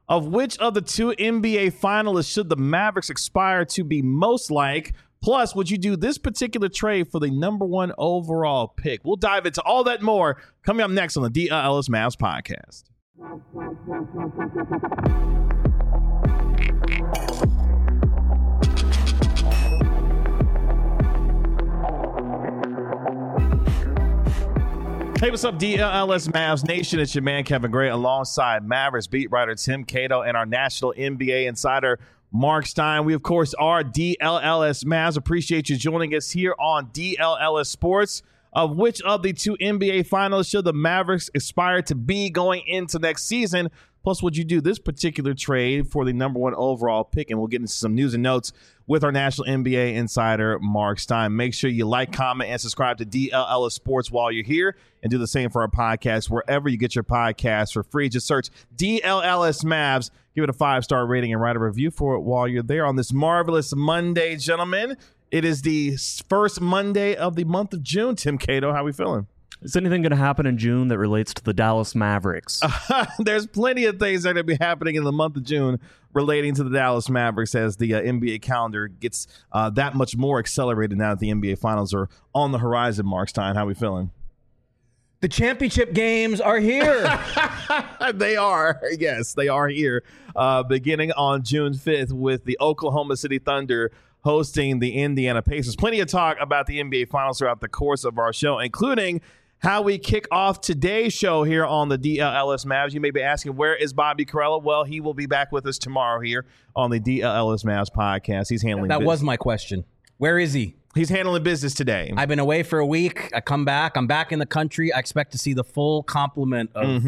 Of which of the two NBA finalists should the Mavericks aspire to be most like? Plus, would you do this particular trade for the number one overall pick? We'll dive into all that and more coming up next on the DLS Mavs podcast. Hey, what's up, DLS Mavs Nation? It's your man, Kevin Gray, alongside Mavericks beat writer Tim Cato and our national NBA insider, Mark Stein. We, of course, are DLS Mavs. Appreciate you joining us here on DLS Sports. Of which of the two NBA finalists should the Mavericks aspire to be going into next season? Plus, would you do this particular trade for the number one overall pick? And we'll get into some news and notes with our national NBA insider, Mark Stein. Make sure you like, comment, and subscribe to DLS Sports while you're here. And do the same for our podcast wherever you get your podcasts for free. Just search DLS Mavs. Give it a 5-star rating and write a review for it while you're there on this marvelous Monday, gentlemen. It is the first Monday of the month of June. Tim Cato, how are we feeling? Is anything going to happen in June that relates to the Dallas Mavericks? There's plenty of things that are going to be happening in the month of June relating to the Dallas Mavericks as the NBA calendar gets that much more accelerated now that the NBA Finals are on the horizon. Mark Stein, how are we feeling? The championship games are here. They are. Yes, they are here. Beginning on June 5th with the Oklahoma City Thunder hosting the Indiana Pacers. Plenty of talk about the NBA Finals throughout the course of our show, including how we kick off today's show here on the DLS Mavs. You may be asking, where is Bobby Karalla? Well, he will be back with us tomorrow here on the DLS Mavs podcast. He's handling That business. was my question. Where is he? He's handling business today. I've been away for a week. I come back. I'm back in the country. I expect to see the full complement of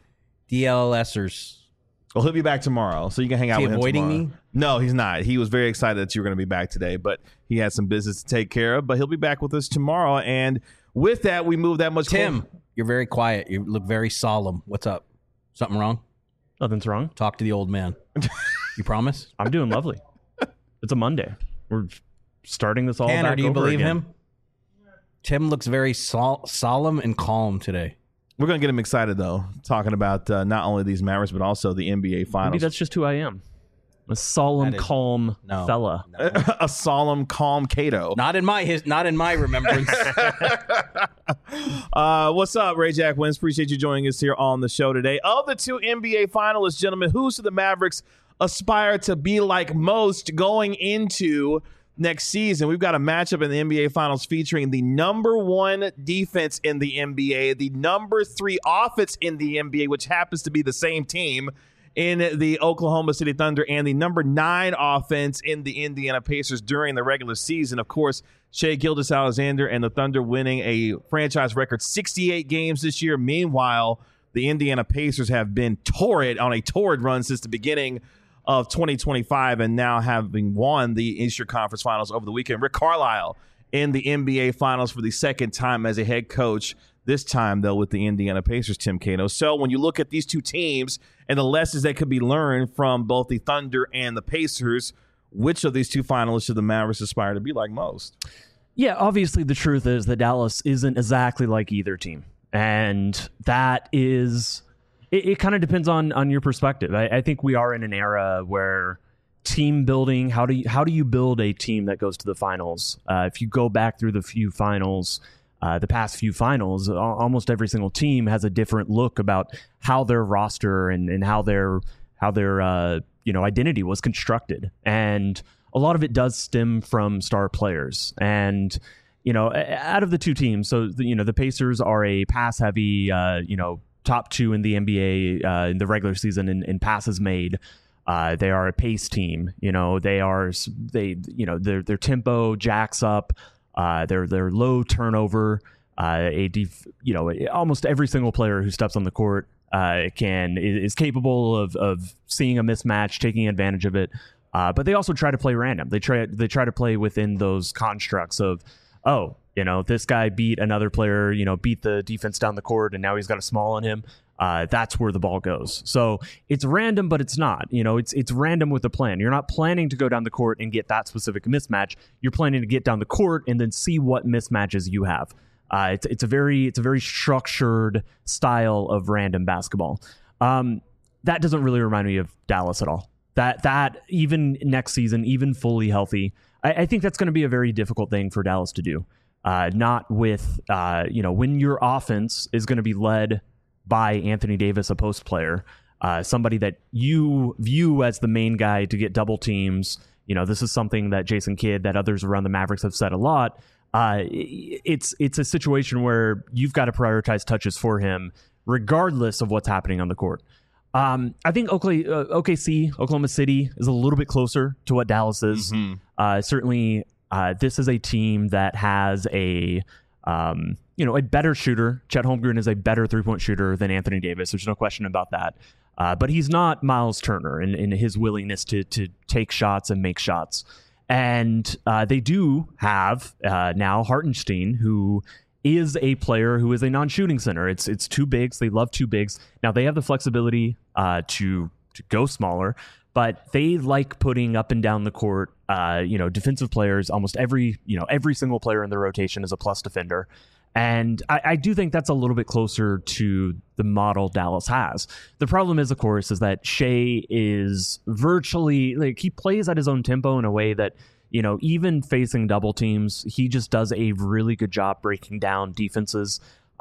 DLSers. Well, he'll be back tomorrow, so you can hang out with him avoiding tomorrow. me? No, he's not. He was very excited that you were going to be back today, but he had some business to take care of. But he'll be back with us tomorrow. And with that, we move that much Tim, closer. you're very quiet. You look very solemn. What's up? Something wrong? Nothing's wrong. Talk to the old man. You promise? I'm doing lovely. It's a Monday. We're starting this all Tanner, back do you over believe again. him? Tim looks very solemn and calm today. We're going to get him excited, though, talking about not only these Mavericks, but also the NBA Finals. Maybe that's just who I am. A solemn, calm fella. No. A solemn, calm Cato. Not in my remembrance. What's up, Ray Jack Wins? Appreciate you joining us here on the show today. Of the two NBA finalists, gentlemen, who's the Mavericks aspire to be like most going into next season? We've got a matchup in the NBA Finals featuring the number one defense in the NBA, the number 3 offense in the NBA, which happens to be the same team in the Oklahoma City Thunder, and the number 9 offense in the Indiana Pacers during the regular season. Of course, Shai Gilgeous-Alexander and the Thunder winning a franchise record 68 games this year. Meanwhile, the Indiana Pacers have been on a torrid run since the beginning of 2025, and now having won the Eastern Conference Finals over the weekend. Rick Carlisle in the NBA Finals for the second time as a head coach, this time, though, with the Indiana Pacers, Tim Cato. So when you look at these two teams and the lessons that could be learned from both the Thunder and the Pacers, which of these two finalists should the Mavericks aspire to be like most? Yeah, obviously the truth is that Dallas isn't exactly like either team. And that is... It kind of depends on your perspective. I think we are in an era where team building, how do you build a team that goes to the finals? If you go back through the past few finals, almost every single team has a different look about how their roster and how their identity was constructed. And a lot of it does stem from star players. And out of the two teams, so the Pacers are a pass heavy, top 2 in the NBA in the regular season in passes made. They are a pace team. Their tempo jacks up. Their low turnover. Almost every single player who steps on the court is capable of seeing a mismatch, taking advantage of it. But they also try to play random. They try to play within those constructs of, this guy beat another player, beat the defense down the court, and now he's got a small on him. That's where the ball goes. So it's random, but it's not. It's random with a plan. You're not planning to go down the court and get that specific mismatch. You're planning to get down the court and then see what mismatches you have. It's a very structured style of random basketball. that doesn't really remind me of Dallas at all. That even next season, even fully healthy, I think that's going to be a very difficult thing for Dallas to do. Not with, when your offense is going to be led by Anthony Davis, a post player, somebody that you view as the main guy to get double teams. This is something that Jason Kidd, that others around the Mavericks have said a lot. It's a situation where you've got to prioritize touches for him, regardless of what's happening on the court. I think OKC, Oklahoma City, is a little bit closer to what Dallas is. Mm-hmm. Certainly, this is a team that has a better shooter. Chet Holmgren is a better three-point shooter than Anthony Davis. There's no question about that. But he's not Miles Turner in his willingness to take shots and make shots. And they do have now Hartenstein, who is a player who is a non-shooting center. It's two bigs. They love two bigs. Now they have the flexibility to go smaller, but they like putting up and down the court, defensive players. Almost every single player in the rotation is a plus defender. And I do think that's a little bit closer to the model Dallas has. The problem is, of course, is that Shai is virtually he plays at his own tempo in a way that, even facing double teams, he just does a really good job breaking down defenses.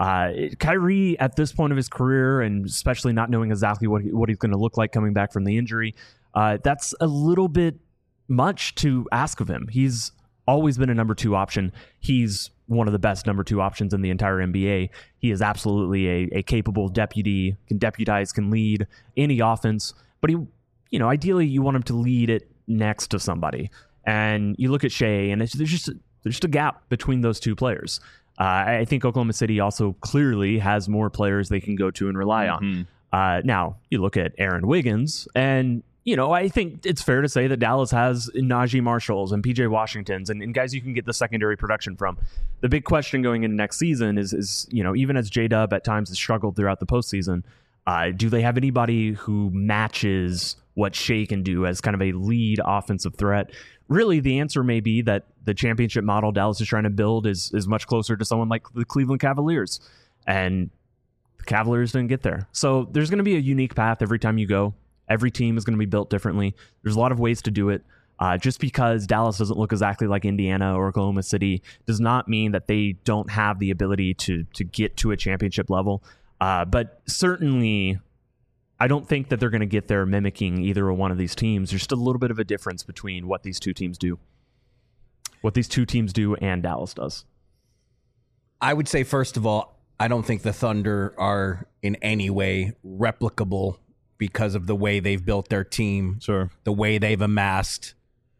Kyrie, at this point of his career, and especially not knowing exactly what he's going to look like coming back from the injury, that's a little bit much to ask of him. He's always been a number 2 option. He's one of the best number 2 options in the entire NBA. He is absolutely a capable deputy, can deputize, can lead any offense, but ideally you want him to lead it next to somebody. And you look at Shai, and there's just a gap between those two players. I think Oklahoma City also clearly has more players they can go to and rely on. Now, you look at Aaron Wiggins, and I think it's fair to say that Dallas has Najee Marshalls and PJ Washingtons and guys you can get the secondary production from. The big question going into next season is even as J-Dub at times has struggled throughout the postseason, do they have anybody who matches what Shai can do as kind of a lead offensive threat? Really, the answer may be that the championship model Dallas is trying to build is much closer to someone like the Cleveland Cavaliers. And the Cavaliers didn't get there. So there's going to be a unique path every time you go. Every team is going to be built differently. There's a lot of ways to do it. Just because Dallas doesn't look exactly like Indiana or Oklahoma City does not mean that they don't have the ability to get to a championship level. But certainly, I don't think that they're going to get there mimicking either one of these teams. There's just a little bit of a difference between what these two teams do. What these two teams do and Dallas does. I would say, first of all, I don't think the Thunder are in any way replicable because of the way they've built their team, the way they've amassed.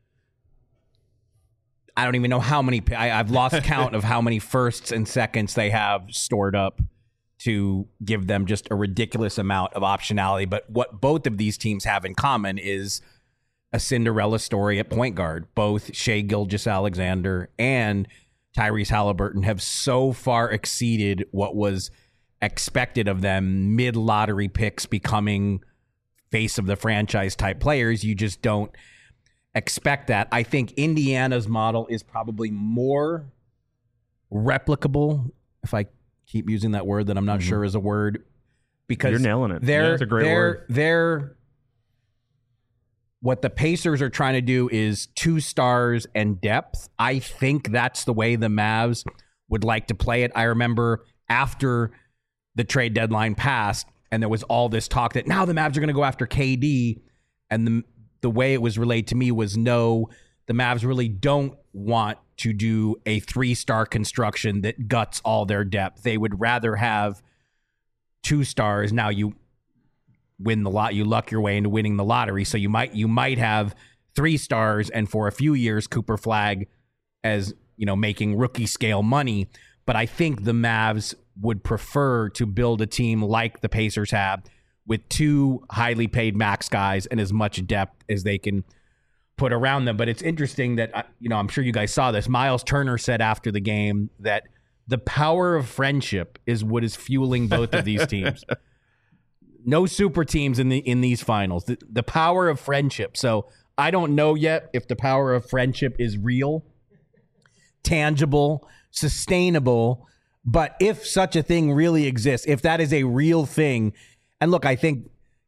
I don't even know how many. I've lost count of how many firsts and seconds they have stored up to give them just a ridiculous amount of optionality. But what both of these teams have in common is a Cinderella story at point guard. Both Shai Gilgeous-Alexander and Tyrese Halliburton have so far exceeded what was expected of them, mid-lottery picks becoming face of the franchise type players. You just don't expect that. I think Indiana's model is probably more replicable, if I keep using that word that I'm not sure is a word, because you're nailing it. It's a great word. What the Pacers are trying to do is 2 stars and depth. I think that's the way the Mavs would like to play it. I remember after the trade deadline passed and there was all this talk that now the Mavs are going to go after KD, and the way it was relayed to me was no, the Mavs really don't want to do a 3-star construction that guts all their depth. They would rather have 2 stars. Now you win the lot, you luck your way into winning the lottery. So you might have 3 stars, and for a few years Cooper Flagg as making rookie scale money. But I think the Mavs would prefer to build a team like the Pacers have, with 2 highly paid max guys and as much depth as they can put around them. But it's interesting that, I'm sure you guys saw this. Miles Turner said after the game that the power of friendship is what is fueling both of these teams. No super teams in these finals. The power of friendship. So I don't know yet if the power of friendship is real, tangible, sustainable. But if such a thing really exists, if that is a real thing, and look, I think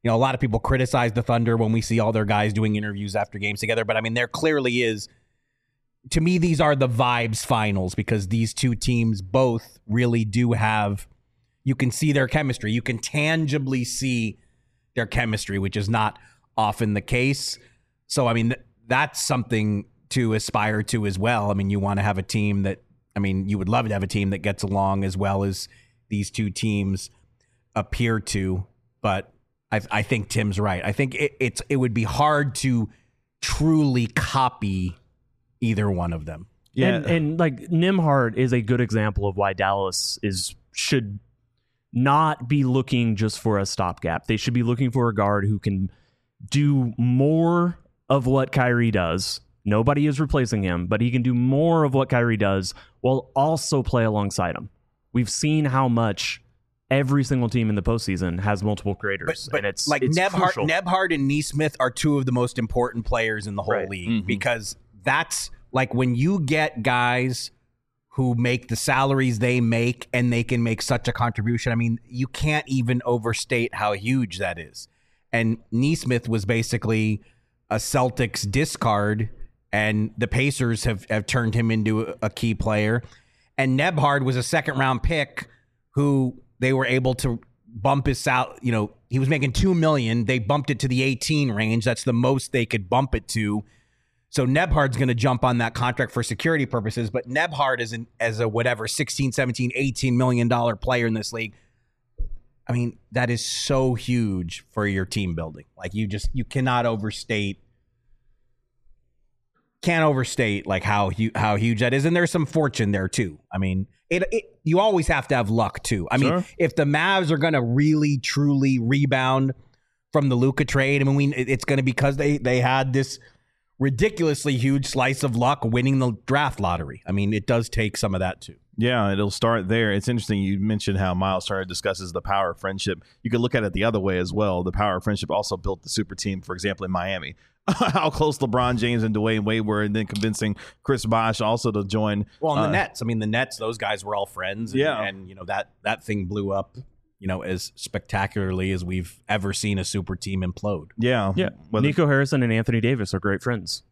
You know, a lot of people criticize the Thunder when we see all their guys doing interviews after games together. But I mean, there clearly is, to me, these are the vibes finals because these two teams both really do have, you can see their chemistry. You can tangibly see their chemistry, which is not often the case. So, I mean, that's something to aspire to as well. I mean, you want to have a team that, I mean, you would love to have a team that gets along as well as these two teams appear to. But I think Tim's right. I think it would be hard to truly copy either one of them. Yeah, and like Nembhard is a good example of why Dallas should not be looking just for a stopgap. They should be looking for a guard who can do more of what Kyrie does. Nobody is replacing him, but he can do more of what Kyrie does while also play alongside him. We've seen how much every single team in the postseason has multiple creators. But and it's like Nembhard and Nesmith are two of the most important players in the whole league because that's like when you get guys who make the salaries they make and they can make such a contribution. I mean, you can't even overstate how huge that is. And Nesmith was basically a Celtics discard, and the Pacers have turned him into a key player. And Nembhard was a second-round pick who they were able to bump his salary. You know, he was making $2 million. They bumped it to the 18 range. That's the most they could bump it to. So Nembhard's going to jump on that contract for security purposes, but Nembhard as a whatever, 16, 17, $18 million player in this league. I mean, that is so huge for your team building. Like you cannot overstate like how huge that is. And there's some fortune there too. I mean, you always have to have luck too. I mean, if the Mavs are going to really truly rebound from the Luka trade, I mean, it's going to be because they had this ridiculously huge slice of luck winning the draft lottery. I mean, it does take some of that too. Yeah, it'll start there. It's interesting you mentioned how Miles Turner discusses the power of friendship. You could look at it the other way as well. The power of friendship also built the super team, for example, in Miami. How close LeBron James and Dwayne Wade were, and then convincing Chris Bosh also to join. Well, and the Nets. I mean, the Nets, those guys were all friends. And you know, that thing blew up, you know, as spectacularly as we've ever seen a super team implode. Yeah. Nico Harrison and Anthony Davis are great friends.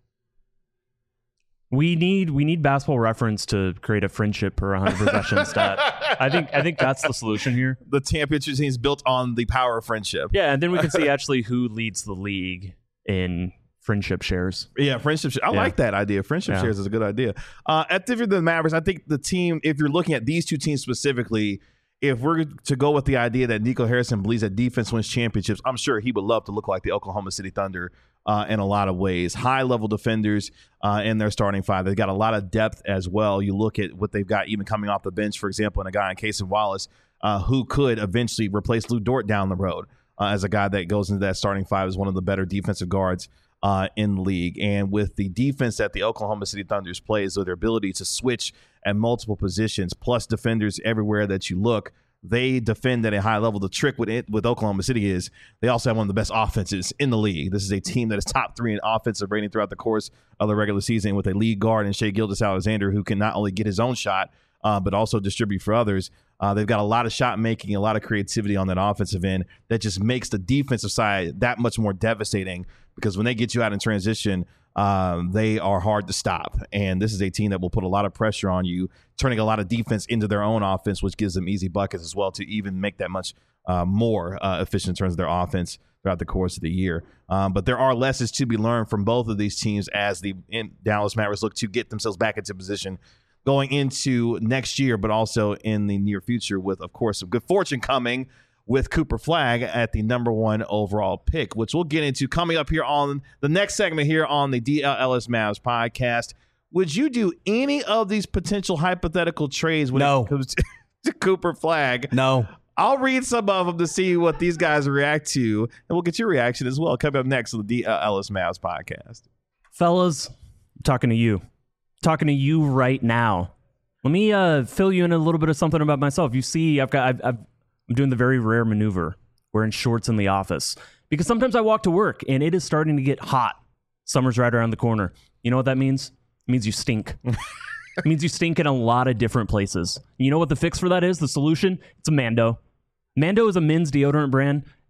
We need Basketball Reference to create a friendship per 100 possession stat. I think that's the solution here. The championship team is built on the power of friendship. Yeah, and then we can see actually who leads the league in friendship shares. Yeah, friendship shares. I like that idea. Friendship shares is a good idea. At the Mavericks, I think the team, if you're looking at these two teams specifically, if we're to go with the idea that Nico Harrison believes that defense wins championships, I'm sure he would love to look like the Oklahoma City Thunder in a lot of ways. High-level defenders in their starting five. They've got a lot of depth as well. You look at what they've got even coming off the bench, for example, and a guy in Cason Wallace who could eventually replace Lou Dort down the road as a guy that goes into that starting five as one of the better defensive guards in the league. And with the defense that the Oklahoma City Thunders plays, so their ability to switch at multiple positions, plus defenders everywhere that you look, they defend at a high level. The trick with Oklahoma City is they also have one of the best offenses in the league. This is a team that is top 3 in offensive rating throughout the course of the regular season with a lead guard in Shai Gilgeous-Alexander who can not only get his own shot, but also distribute for others. They've got a lot of shot making, a lot of creativity on that offensive end that just makes the defensive side that much more devastating because when they get you out in transition, they are hard to stop. And this is a team that will put a lot of pressure on you, turning a lot of defense into their own offense, which gives them easy buckets as well to even make that much more efficient in terms of their offense throughout the course of the year. But there are lessons to be learned from both of these teams as the Dallas Mavericks look to get themselves back into position going into next year, but also in the near future with, of course, some good fortune coming with Cooper Flagg at the number 1 overall pick, which we'll get into coming up here on the next segment here on the DLS Mavs podcast. Would you do any of these potential hypothetical trades when it comes to Cooper Flagg? No. I'll read some of them to see what these guys react to, and we'll get your reaction as well. Coming up next on the DLS Mavs podcast. Fellas, I'm talking to you. Talking to you right now. Let me fill you in a little bit of something about myself. You see, I'm doing the very rare maneuver, wearing shorts in the office, because sometimes I walk to work and it is starting to get hot. Summer's right around the corner. You know what that means? It means you stink. It means you stink in a lot of different places. You know what the fix for that is? The solution? It's a Mando. Mando is a men's deodorant brand. It's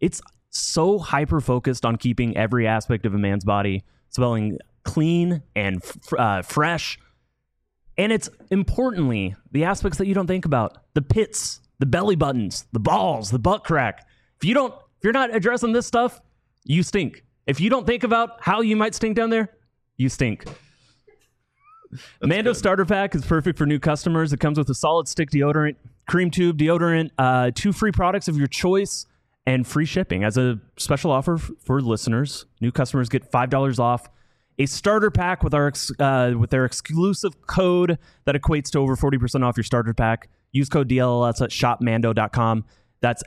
so hyper-focused on keeping every aspect of a man's body smelling clean and fresh. And it's importantly the aspects that you don't think about. The pits, the belly buttons, the balls, the butt crack. If you're not addressing this stuff, you stink. If you don't think about how you might stink down there, you stink. Mando Starter Pack is perfect for new customers. It comes with a solid stick deodorant, cream tube deodorant, 2 free products of your choice, and free shipping. As a special offer for listeners, new customers get $5 off a starter pack with their exclusive code that equates to over 40% off your starter pack. Use code DLLS at shopmando.com. That's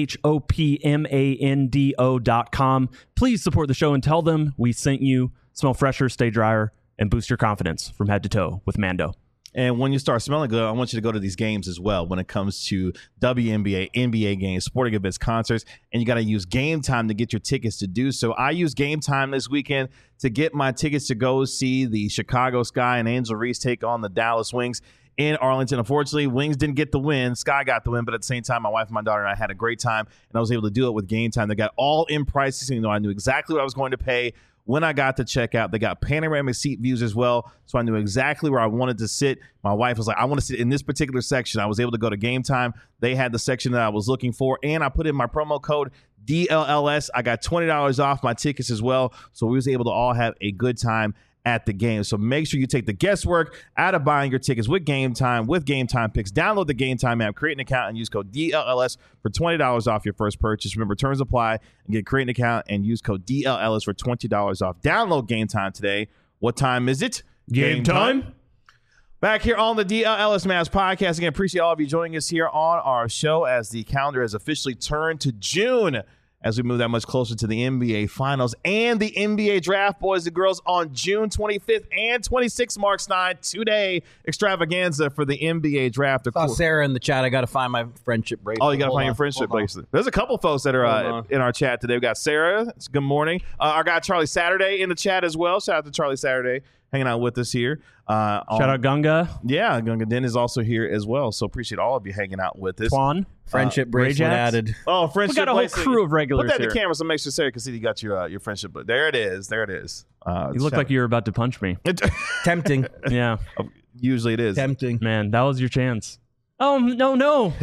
shopmando.com. Please support the show and tell them we sent you. Smell fresher, stay drier, and boost your confidence from head to toe with Mando. And when you start smelling good, I want you to go to these games as well when it comes to WNBA, NBA games, sporting events, concerts, and you got to use Game Time to get your tickets to do so. I use Game Time this weekend to get my tickets to go see the Chicago Sky and Angel Reese take on the Dallas Wings in Arlington. Unfortunately, Wings didn't get the win. Sky got the win, but at the same time, my wife, my daughter, and I had a great time, and I was able to do it with Game Time. They got all-in prices. I knew exactly what I was going to pay when I got to checkout. They got panoramic seat views as well, so I knew exactly where I wanted to sit. My wife was like, I want to sit in this particular section. I was able to go to Game Time. They had the section that I was looking for, and I put in my promo code DLLS. I got $20 off my tickets as well, so we was able to all have a good time at the game. So make sure you take the guesswork out of buying your tickets with Game Time Picks. Download the Game Time app, create an account, and use code DLLS for $20 off your first purchase. Remember, terms apply, and create an account and use code DLLS for $20 off. Download Game Time today. What time is it? Game time. Back here on the DLLS Mavs podcast. Again, appreciate all of you joining us here on our show as the calendar has officially turned to June as we move that much closer to the NBA Finals and the NBA Draft, boys and girls, on June 25th and 26th. Mark Stein, 2-day extravaganza for the NBA Draft. Saw Sarah in the chat. I got to find my friendship bracelet. Oh, you got to find your friendship bracelet. There's a couple folks that are in our chat today. We got Sarah. Good morning. Our guy Charlie Saturday in the chat as well. Shout out to Charlie Saturday hanging out with us here. Shout out Gunga. Yeah, Gunga Den is also here as well. So appreciate all of you hanging out with us. Twan. Friendship bracelet added. Oh, friendship bracelet. We got a whole crew of regulars here. Put that in the here. camera so make sure Sarah can see you got your friendship. But there it is. There it is. You look like you were about to punch me. Tempting. Yeah. Usually it is. Tempting. Man, that was your chance. Oh, no.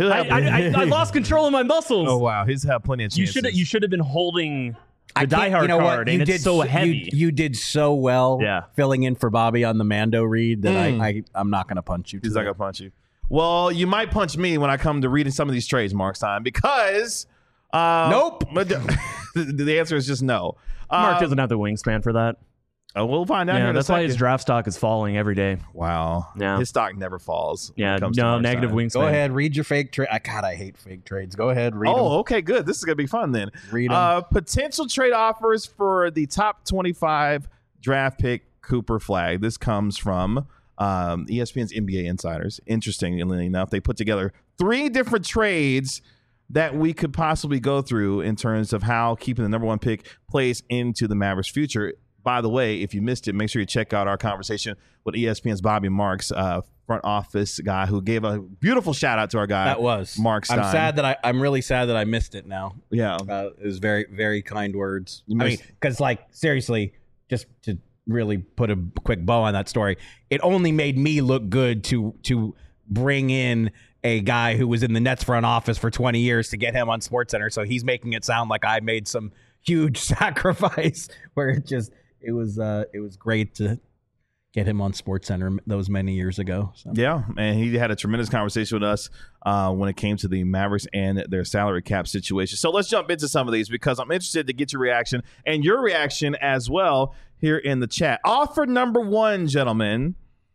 I lost control of my muscles. Oh, wow. He's had plenty of chances. You should have been holding the Die Hard card, and it's so heavy. You did so well Yeah. filling in for Bobby on the Mando read that I'm not going to punch you. He's not going to punch you. Well, you might punch me when I come to reading some of these trades, Mark Stein, because nope. The answer is just no. Mark doesn't have the wingspan for that. We'll find out here in a that's why second. his draft stock is falling every day. Wow. Yeah. His stock never falls. when Yeah, it comes to no, Mark negative Stein. wingspan. Go ahead, read your fake trade. God, I hate fake trades. Go ahead, read them. Oh, okay, good. This is going to be fun then. Read 'em. Potential trade offers for the top 25 draft pick Cooper Flag. This comes from ESPN's NBA Insiders. Interestingly enough, they put together 3 different trades that we could possibly go through in terms of how keeping the number 1 pick plays into the Mavericks' future. By the way, if you missed it, make sure you check out our conversation with ESPN's Bobby Marks, front office guy, who gave a beautiful shout out to our guy. That was Mark Stein. I'm really sad that I missed it now. Yeah. It was very, very kind words. You I mean, missed- because seriously, just to really put a quick bow on that story, it only made me look good to bring in a guy who was in the Nets front office for 20 years to get him on SportsCenter. So he's making it sound like I made some huge sacrifice where it was great to get him on SportsCenter those many years ago. So. Yeah, and he had a tremendous conversation with us when it came to the Mavericks and their salary cap situation. So let's jump into some of these because I'm interested to get your reaction and your reaction as well here in the chat. Offer number 1, gentlemen.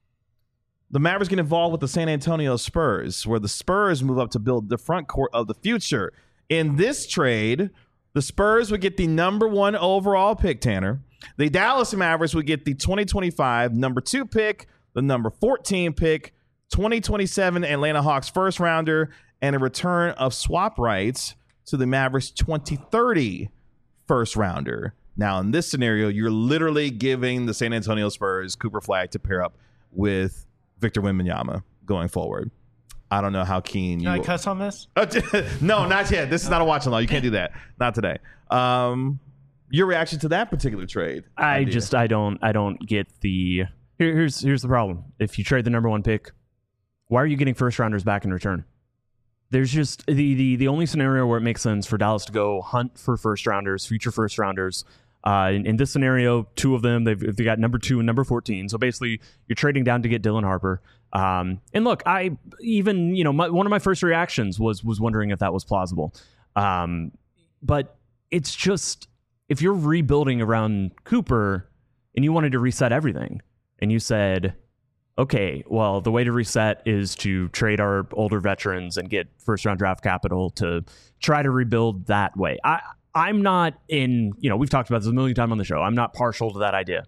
The Mavericks get involved with the San Antonio Spurs, where the Spurs move up to build the front court of the future. In this trade, the Spurs would get the number 1 overall pick, Tanner. The Dallas Mavericks would get the 2025 number 2 pick, the number 14 pick, 2027 Atlanta Hawks first rounder, and a return of swap rights to the Mavericks 2030 first rounder. Now, in this scenario, you're literally giving the San Antonio Spurs Cooper Flag to pair up with Victor Wembanyama going forward. I don't know how keen Can I cuss on this? No, not yet. This is not a watch along. You can't do that. Not today. Your reaction to that particular trade? I don't get the. Here's the problem. If you trade the number 1 pick, why are you getting first rounders back in return? There's just the only scenario where it makes sense for Dallas to go hunt for first rounders, future first rounders. In this scenario, 2 of them, they've got number 2 and number 14. So basically, you're trading down to get Dylan Harper. And look, one of my first reactions was wondering if that was plausible. But it's just, if you're rebuilding around Cooper and you wanted to reset everything, and you said, okay, well, the way to reset is to trade our older veterans and get first-round draft capital to try to rebuild that way. I'm not in, we've talked about this a million times on the show. I'm not partial to that idea,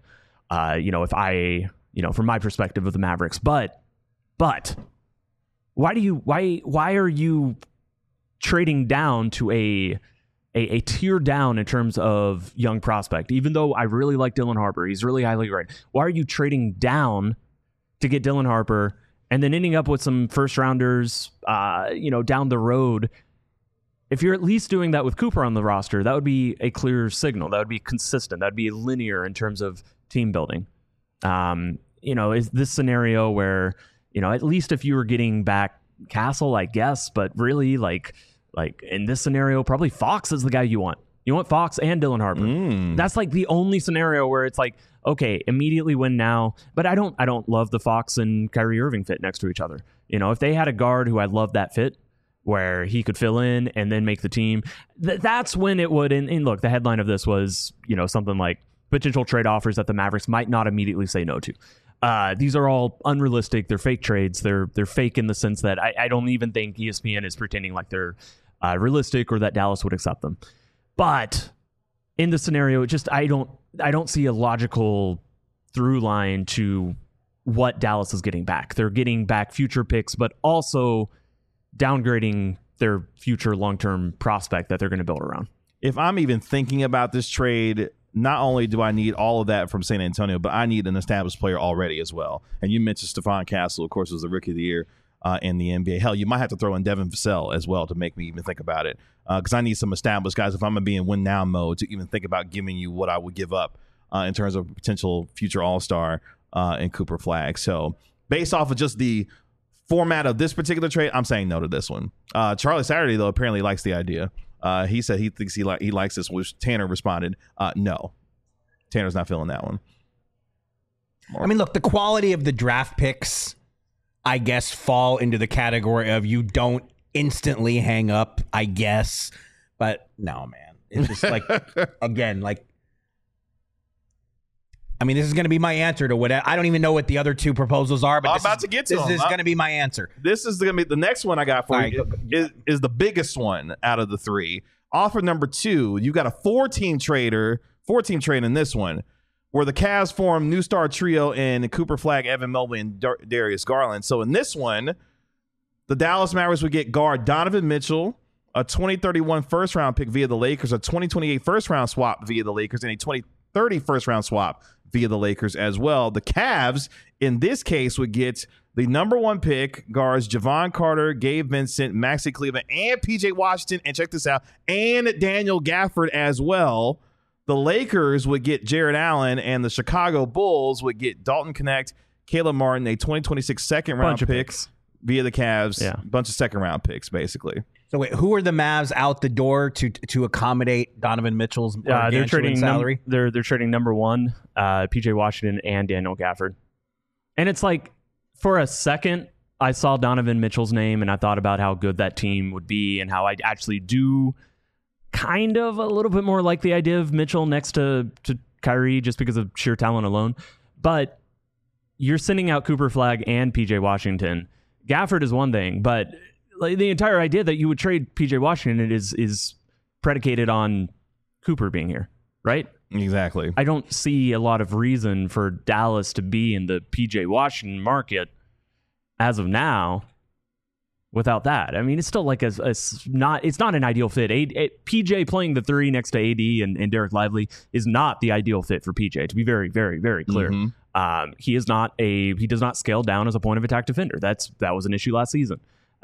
from my perspective of the Mavericks. But why are you trading down to a tier down in terms of young prospect? Even though I really like Dylan Harper, he's really highly rated. Why are you trading down to get Dylan Harper and then ending up with some first rounders, down the road? If you're at least doing that with Cooper on the roster, that would be a clear signal. That would be consistent. That would be linear in terms of team building. Is this scenario where, at least if you were getting back Castle, I guess, but really like in this scenario, probably Fox is the guy you want. You want Fox and Dylan Harper. That's like the only scenario where it's like, okay, immediately win now. But I don't love the Fox and Kyrie Irving fit next to each other. If they had a guard who I loved that fit, where he could fill in and then make the team, that's when it would. And look, the headline of this was, something like potential trade offers that the Mavericks might not immediately say no to. These are all unrealistic. They're fake trades. They're fake in the sense that I don't even think ESPN is pretending like they're realistic or that Dallas would accept them. But in the scenario, it just I don't see a logical through line to what Dallas is getting back. They're getting back future picks, but also downgrading their future long-term prospect that they're going to build around. If I'm even thinking about this trade, not only do I need all of that from San Antonio, but I need an established player already as well. And you mentioned Stephon Castle, of course, was the Rookie of the Year in the NBA. Hell, you might have to throw in Devin Vassell as well to make me even think about it, because I need some established guys if I'm going to be in win-now mode to even think about giving you what I would give up in terms of potential future All-Star in Cooper Flagg. So based off of just the format of this particular trade, I'm saying no to this one. Charlie Saturday, though, apparently likes the idea. He said he thinks he likes this, which Tanner responded, no. Tanner's not feeling that one. I mean, look, the quality of the draft picks, I guess, fall into the category of you don't instantly hang up, I guess. But no, man. It's just like, again, like, I mean, this is going to be my answer to what I don't even know what the other 2 proposals are, but I'm about to get to them. This is going to be my answer. This is going to be the next one I got for you. Is the biggest one out of the 3. Offer number 2, you got a 4-team trade in this one, where the Cavs form new star trio in Cooper Flagg, Evan Mobley, and Darius Garland. So in this one, the Dallas Mavericks would get guard Donovan Mitchell, a 2031 first-round pick via the Lakers, a 2028 first-round swap via the Lakers, and a 2030 first-round swap via the Lakers as well. The Cavs, in this case, would get the number 1 pick, guards Javon Carter, Gabe Vincent, Maxi Cleveland, and PJ Washington, and check this out, and Daniel Gafford as well. The Lakers would get Jared Allen, and the Chicago Bulls would get Dalton Knecht, Caleb Martin, a 2026 second-round pick via the Cavs. Yeah. A bunch of second-round picks, basically. So wait, who are the Mavs out the door to accommodate Donovan Mitchell's they're trading salary? They're trading number 1, PJ Washington and Daniel Gafford. And it's like, for a second, I saw Donovan Mitchell's name and I thought about how good that team would be and how I actually do kind of a little bit more like the idea of Mitchell next to Kyrie just because of sheer talent alone. But you're sending out Cooper Flagg and PJ Washington. Gafford is one thing, but like, the entire idea that you would trade PJ Washington is predicated on Cooper being here, right? Exactly. I don't see a lot of reason for Dallas to be in the PJ Washington market as of now without that. I mean, it's still like it's not an ideal fit. PJ playing the 3 next to AD and Derek Lively is not the ideal fit for PJ, to be very, very, very clear. Mm-hmm. He does not scale down as a point of attack defender. That was an issue last season.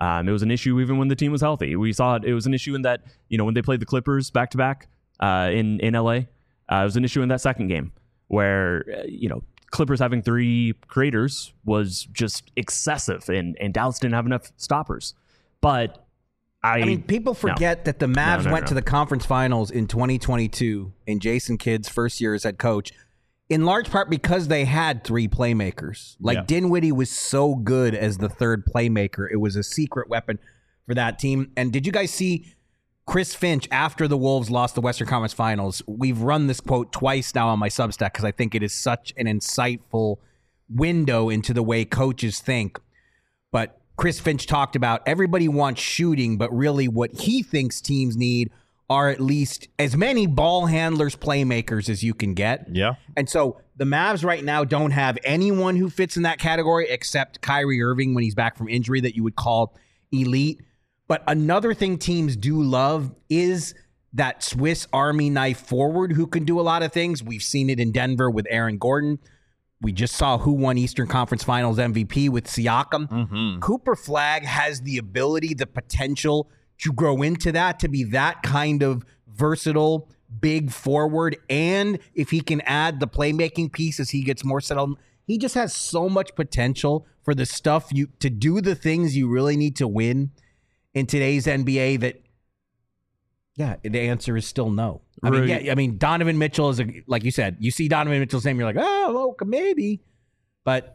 It was an issue even when the team was healthy. We saw it. It was an issue in that, when they played the Clippers back to back in LA. It was an issue in that second game where, Clippers having 3 creators was just excessive, and Dallas didn't have enough stoppers. But I mean, people forget that the Mavs went to the conference finals in 2022 in Jason Kidd's first year as head coach, in large part because they had 3 playmakers. Dinwiddie was so good as the third playmaker. It was a secret weapon for that team. And did you guys see Chris Finch after the Wolves lost the Western Conference Finals? We've run this quote twice now on my Substack because I think it is such an insightful window into the way coaches think. But Chris Finch talked about everybody wants shooting, but really what he thinks teams need are at least as many ball handlers, playmakers as you can get. Yeah. And so the Mavs right now don't have anyone who fits in that category except Kyrie Irving when he's back from injury that you would call elite. But another thing teams do love is that Swiss Army knife forward who can do a lot of things. We've seen it in Denver with Aaron Gordon. We just saw who won Eastern Conference Finals MVP with Siakam. Mm-hmm. Cooper Flagg has the ability, the potential to grow into that, to be that kind of versatile, big forward. And if he can add the playmaking piece as he gets more settled, he just has so much potential for the stuff to do the things you really need to win in today's NBA that, the answer is still no. Donovan Mitchell is, like you said, you see Donovan Mitchell's name, you're like, oh, maybe. But,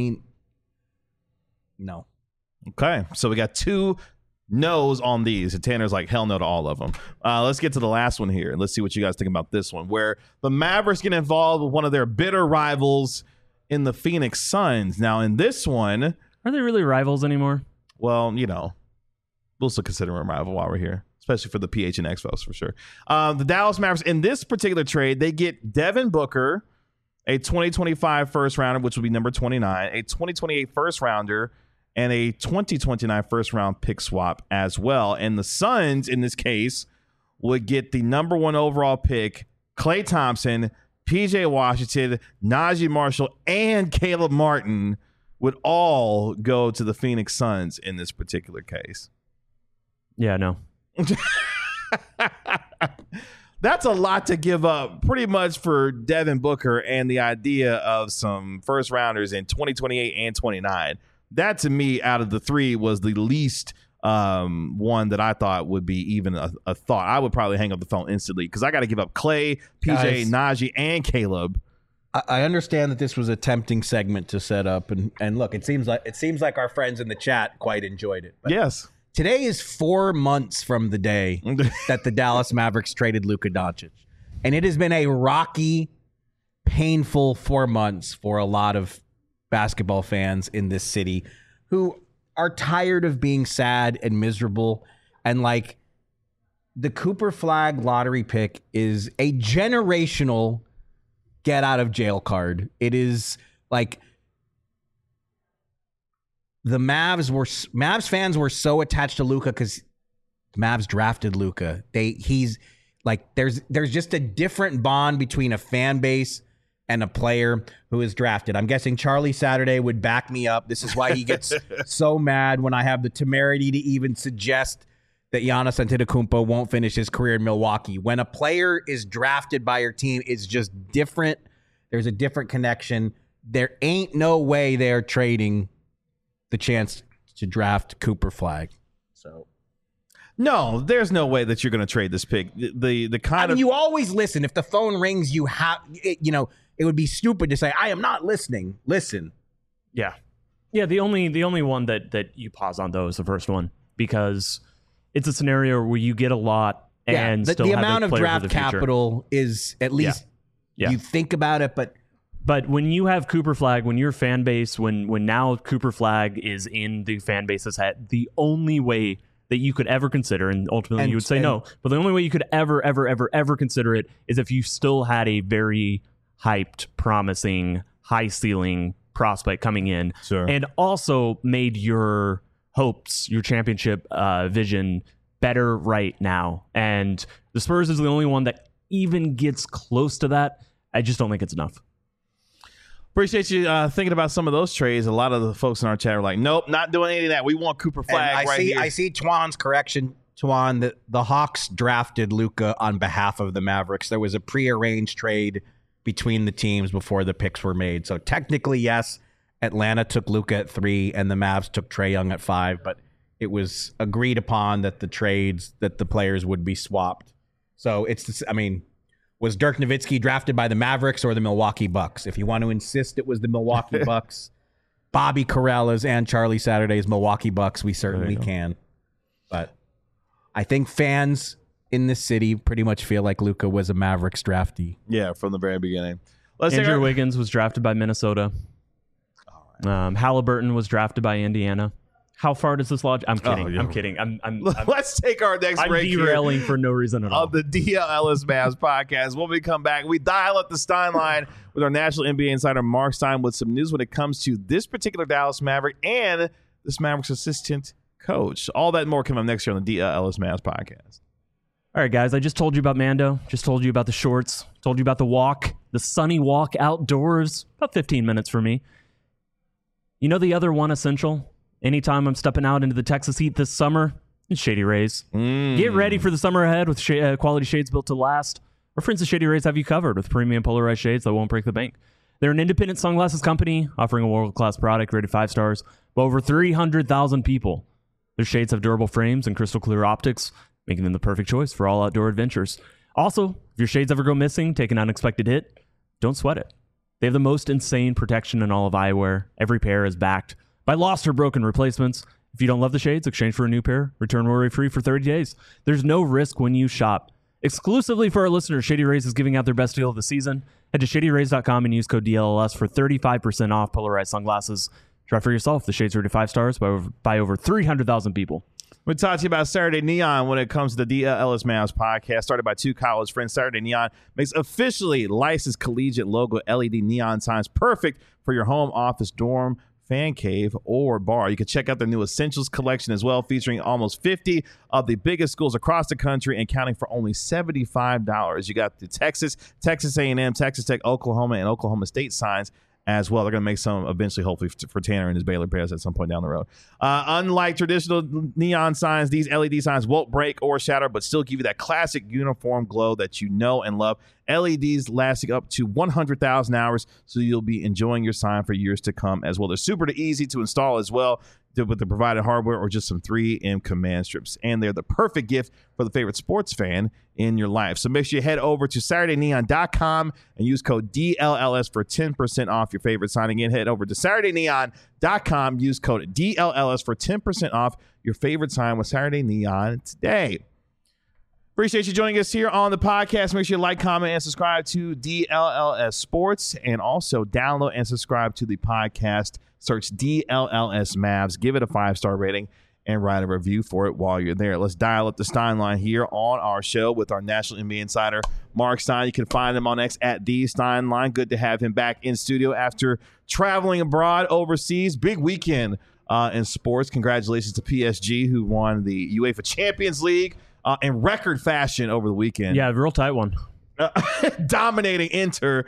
no. Okay, so we got 2 no's on these. And Tanner's like, hell no to all of them. Let's get to the last one here. Let's see what you guys think about this one, where the Mavericks get involved with one of their bitter rivals in the Phoenix Suns. Now, in this one... Are they really rivals anymore? Well, we'll still consider them a rival while we're here, especially for the PHNX folks, for sure. The Dallas Mavericks, in this particular trade, they get Devin Booker, a 2025 first rounder, which will be number 29, a 2028 first rounder, and a 2029 first round pick swap as well. And the Suns, in this case, would get the number 1 overall pick, Klay Thompson, PJ Washington, Najee Marshall, and Caleb Martin would all go to the Phoenix Suns in this particular case. Yeah, no. That's a lot to give up pretty much for Devin Booker and the idea of some first rounders in 2028 and 29. That to me, out of the 3, was the least one that I thought would be even a thought. I would probably hang up the phone instantly because I got to give up Klay, PJ, Najee, and Caleb. I understand that this was a tempting segment to set up, and look, it seems like our friends in the chat quite enjoyed it. But yes. Today is 4 months from the day that the Dallas Mavericks traded Luka Doncic. And it has been a rocky, painful 4 months for a lot of basketball fans in this city who are tired of being sad and miserable. And the Cooper Flagg lottery pick is a generational get out of jail card. It is the Mavs fans were so attached to Luka because Mavs drafted Luka. He's there's just a different bond between a fan base and a player who is drafted. I'm guessing Charlie Saturday would back me up. This is why he gets so mad when I have the temerity to even suggest that Giannis Antetokounmpo won't finish his career in Milwaukee. When a player is drafted by your team, it's just different. There's a different connection. There ain't no way they're trading the chance to draft Cooper Flagg. So, no, there's no way that you're going to trade this pick. The kind of you always listen. If the phone rings, you have it would be stupid to say I am not listening. Listen. Yeah. The only one that you pause on though is the first one because it's a scenario where you get a lot and still the have amount of draft the capital is at least you think about it, But when you have Cooper Flagg, when your fan base, when now Cooper Flagg is in the fan base's head, the only way that you could ever consider, and ultimately you would say no, but the only way you could ever consider it is if you still had a very hyped, promising, high ceiling prospect coming in, and also made your hopes, your championship vision better right now. And the Spurs is the only one that even gets close to that. I just don't think it's enough. Appreciate you thinking about some of those trades. A lot of the folks in our chat are like, nope, not doing any of that. We want Cooper Flag here. I see Twan's correction. Twan, that the Hawks drafted Luka on behalf of the Mavericks. There was a prearranged trade between the teams before the picks were made. So technically, yes, Atlanta took Luka at 3 and the Mavs took Trae Young at 5, but it was agreed upon that the players would be swapped. So was Dirk Nowitzki drafted by the Mavericks or the Milwaukee Bucks? If you want to insist it was the Milwaukee Bucks, Bobby Carrella's and Charlie Saturday's Milwaukee Bucks, we certainly can. But I think fans in this city pretty much feel like Luka was a Mavericks draftee. Yeah, from the very beginning. Andrew Wiggins was drafted by Minnesota. Halliburton was drafted by Indiana. How far does this lodge? I'm kidding. I'm kidding. Let's take our next break. I'm derailing for no reason at all. On the DL Ellis Mavs podcast. When we come back, we dial up the Stein line with our national NBA insider Mark Stein with some news when it comes to this particular Dallas Maverick and this Mavericks assistant coach. All that and more coming up next year on the DL Ellis Mavs podcast. All right, guys. I just told you about Mando. Just told you about the shorts. Told you about the walk, the sunny walk outdoors. About 15 minutes for me. You know the other one essential? Anytime I'm stepping out into the Texas heat this summer, it's Shady Rays. Get ready for the summer ahead with quality shades built to last. Our friends at Shady Rays have you covered with premium polarized shades that won't break the bank. They're an independent sunglasses company offering a world-class product rated 5 stars by over 300,000 people. Their shades have durable frames and crystal clear optics, making them the perfect choice for all outdoor adventures. Also, if your shades ever go missing, take an unexpected hit, don't sweat it. They have the most insane protection in all of eyewear. Every pair is backed by lost or broken replacements. If you don't love the shades, exchange for a new pair. Return worry-free for 30 days. There's no risk when you shop. Exclusively for our listeners, Shady Rays is giving out their best deal of the season. Head to shadyrays.com and use code DLLS for 35% off polarized sunglasses. Try for yourself. The shades are rated 5 stars by over 300,000 people. We talked to you about Saturday Neon when it comes to the DL Ellis Mavs podcast, started by 2 college friends. Saturday Neon makes officially licensed collegiate logo LED neon signs perfect for your home, office, dorm, fan cave, or bar. You can check out their new Essentials collection as well, featuring almost 50 of the biggest schools across the country and counting for only $75. You got the Texas A&M, Texas Tech, Oklahoma, and Oklahoma State signs as well. They're going to make some eventually, hopefully, for Tanner and his Baylor Bears at some point down the road. Unlike traditional neon signs, these LED signs won't break or shatter, but still give you that classic uniform glow that you know and love. LEDs lasting up to 100,000 hours, so you'll be enjoying your sign for years to come as well. They're super easy to install as well with the provided hardware or just some 3M command strips. And they're the perfect gift for the favorite sports fan in your life. So make sure you head over to SaturdayNeon.com and use code DLLS for 10% off your favorite sign. Again, head over to SaturdayNeon.com, use code DLLS for 10% off your favorite sign with Saturday Neon today. Appreciate you joining us here on the podcast. Make sure you like, comment, and subscribe to DLLS Sports, and also download and subscribe to the podcast. Search DLLS Mavs. Give it a 5-star rating and write a review for it while you're there. Let's dial up the Stein line here on our show with our National NBA insider, Mark Stein. You can find him on X at the Stein line. Good to have him back in studio after traveling abroad overseas. Big weekend in sports. Congratulations to PSG, who won the UEFA Champions League in record fashion over the weekend. Yeah, real tight one. Dominating Inter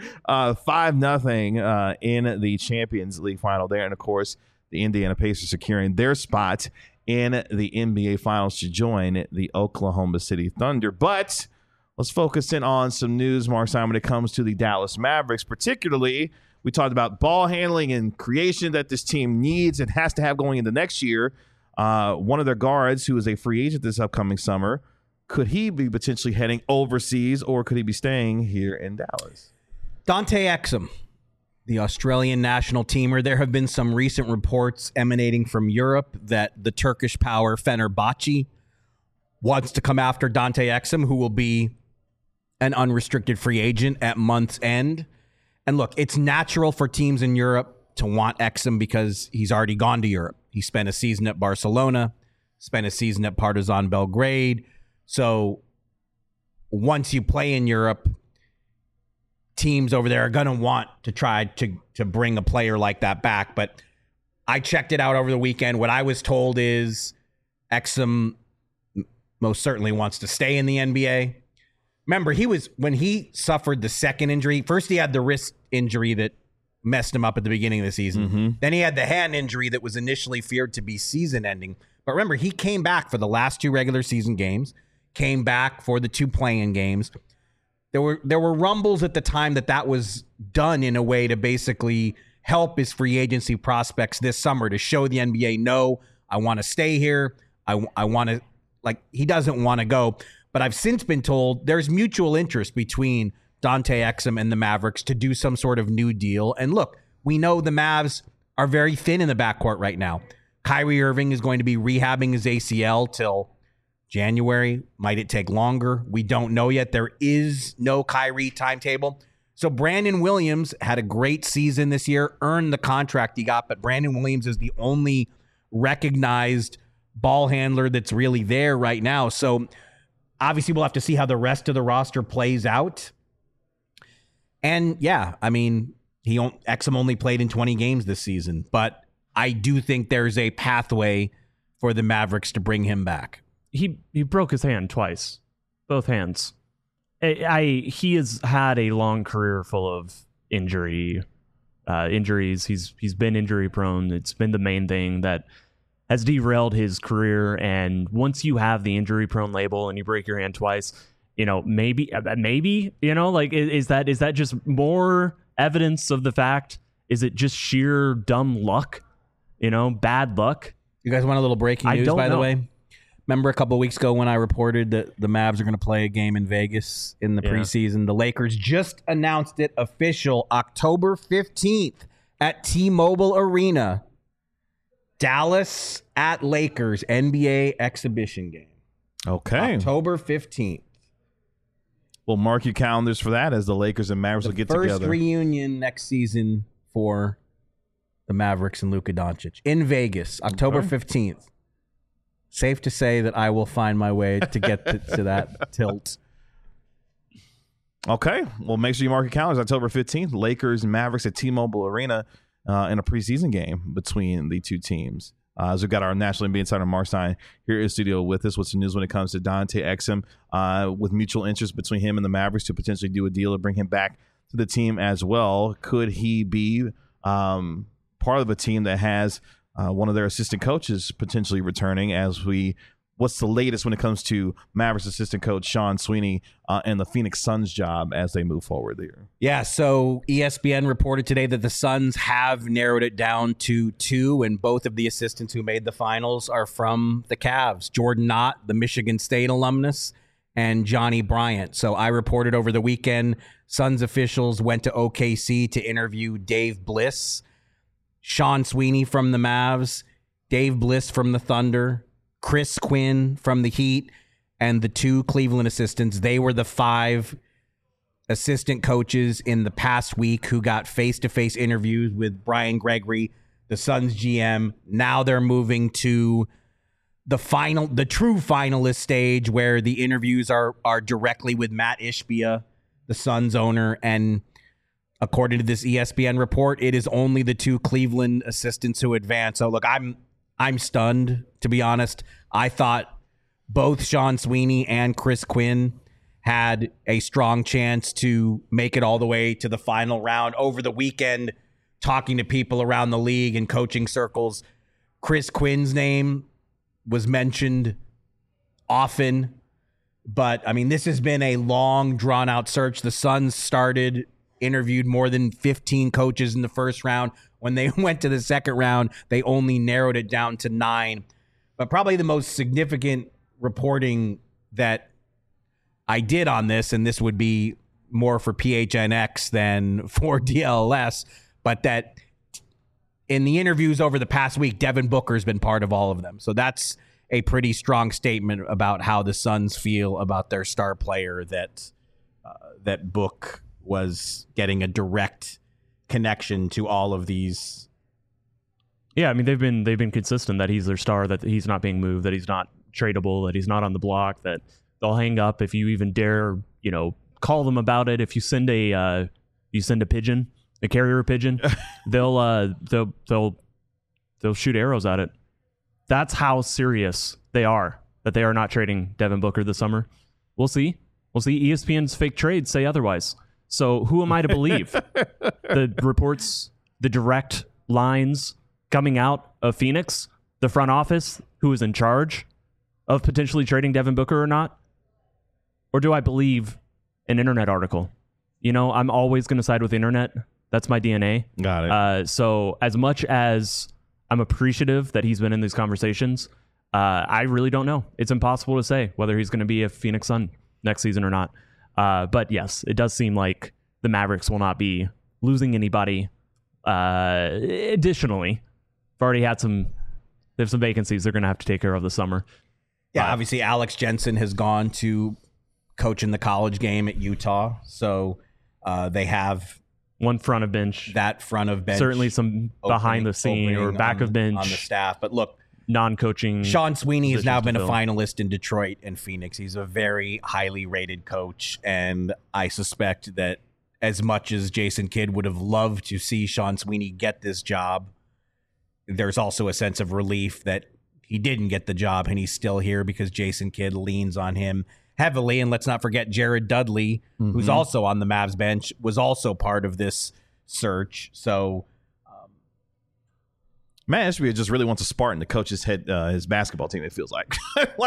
5-0 in the Champions League final there. And, of course, the Indiana Pacers securing their spot in the NBA Finals to join the Oklahoma City Thunder. But let's focus in on some news, Mark Simon, when it comes to the Dallas Mavericks. Particularly, we talked about ball handling and creation that this team needs and has to have going into next year. One of their guards, who is a free agent this upcoming summer, could he be potentially heading overseas, or could he be staying here in Dallas? Dante Exum, the Australian national teamer. There have been some recent reports emanating from Europe that the Turkish power Fenerbahce wants to come after Dante Exum, who will be an unrestricted free agent at month's end. And look, it's natural for teams in Europe to want Exum because he's already gone to Europe. He spent a season at Barcelona, spent a season at Partizan Belgrade. So once you play in Europe, teams over there are going to want to try to bring a player like that back. But I checked it out over the weekend. What I was told is Exum most certainly wants to stay in the NBA. Remember, when he suffered the second injury, first he had the wrist injury that messed him up at the beginning of the season. Then he had the hand injury that was initially feared to be season-ending. But remember, he came back for the last 2 regular season games, came back for the 2 play-in games. There were rumbles at the time that was done in a way to basically help his free agency prospects this summer, to show the NBA, no, I want to stay here. I want to, he doesn't want to go. But I've since been told there's mutual interest between Dante Exum and the Mavericks to do some sort of new deal. And look, we know the Mavs are very thin in the backcourt right now. Kyrie Irving is going to be rehabbing his ACL till January. Might it take longer? We don't know yet. There is no Kyrie timetable. So Brandon Williams had a great season this year, earned the contract he got, but Brandon Williams is the only recognized ball handler that's really there right now. So obviously we'll have to see how the rest of the roster plays out. And yeah, I mean, Exum only played in 20 games this season, but I do think there's a pathway for the Mavericks to bring him back. He broke his hand twice, both hands. He has had a long career full of injuries. He's been injury prone. It's been the main thing that has derailed his career. And once you have the injury prone label and you break your hand twice, maybe, is that just more evidence of the fact? Is it just sheer dumb luck? Bad luck? You guys want a little breaking news, by the way? Remember a couple of weeks ago when I reported that the Mavs are going to play a game in Vegas in the preseason? The Lakers just announced it official October 15th at T-Mobile Arena. Dallas at Lakers NBA exhibition game. Okay. October 15th. Well, mark your calendars for that as the Lakers and Mavericks will get together. First reunion next season for the Mavericks and Luka Doncic in Vegas, October 15th. Safe to say that I will find my way to get to that tilt. Okay. Well, make sure you mark your calendars. October 15th, Lakers and Mavericks at T-Mobile Arena in a preseason game between the two teams. As we've got our National NBA insider Mark Stein here in the studio with us. What's the news when it comes to Dante Exum with mutual interest between him and the Mavericks to potentially do a deal to bring him back to the team as well? Could he be part of a team that has one of their assistant coaches potentially returning? What's the latest when it comes to Mavericks assistant coach Sean Sweeney and the Phoenix Suns job as they move forward there? Yeah, so ESPN reported today that the Suns have narrowed it down to 2, and both of the assistants who made the finals are from the Cavs. Jordan Knott, the Michigan State alumnus, and Johnny Bryant. So I reported over the weekend, Suns officials went to OKC to interview Dave Bliss, Sean Sweeney from the Mavs, Dave Bliss from the Thunder, Chris Quinn from the Heat, and the 2 Cleveland assistants. They were the 5 assistant coaches in the past week who got face-to-face interviews with Brian Gregory, the Suns GM. Now they're moving to the true finalist stage where the interviews are directly with Matt Ishbia, the Suns owner. And according to this ESPN report, it is only the 2 Cleveland assistants who advance. So look, I'm stunned, to be honest. I thought both Sean Sweeney and Chris Quinn had a strong chance to make it all the way to the final round. Over the weekend, talking to people around the league and coaching circles, Chris Quinn's name was mentioned often. But, I mean, this has been a long, drawn-out search. The Suns interviewed more than 15 coaches in the first round. When they went to the second round, they only narrowed it down to 9. But probably the most significant reporting that I did on this, and this would be more for PHNX than for DLS, but that in the interviews over the past week, Devin Booker has been part of all of them. So that's a pretty strong statement about how the Suns feel about their star player, that Book was getting a direct connection to all of these. Yeah, I mean, they've been consistent that he's their star, that he's not being moved, that he's not tradable, that he's not on the block, that they'll hang up if you even dare, call them about it. If you send a pigeon, a carrier pigeon, they'll shoot arrows at it. That's how serious they are, that they are not trading Devin Booker this summer. We'll see. ESPN's fake trades say otherwise. So who am I to believe? the reports, the direct lines coming out of Phoenix, the front office, who is in charge of potentially trading Devin Booker or not? Or do I believe an internet article? You know, I'm always going to side with the internet. That's my DNA. Got it. So as much as I'm appreciative that he's been in these conversations, I really don't know. It's impossible to say whether he's going to be a Phoenix Sun next season or not. But yes, it does seem like the Mavericks will not be losing anybody. Additionally, they've already had they have some vacancies they're going to have to take care of this summer. Yeah, obviously Alex Jensen has gone to coach in the college game at Utah. So they have one front of bench. That front of bench. Certainly some behind the scene or back of bench. On the staff. But look, non-coaching. Sean Sweeney has now been a finalist in Detroit and Phoenix. He's a very highly rated coach. And I suspect that as much as Jason Kidd would have loved to see Sean Sweeney get this job, there's also a sense of relief that he didn't get the job and he's still here because Jason Kidd leans on him heavily. And let's not forget Jared Dudley, who's also on the Mavs bench, was also part of this search. So Matt Ishbia just really wants a Spartan to coach his basketball team. It feels like,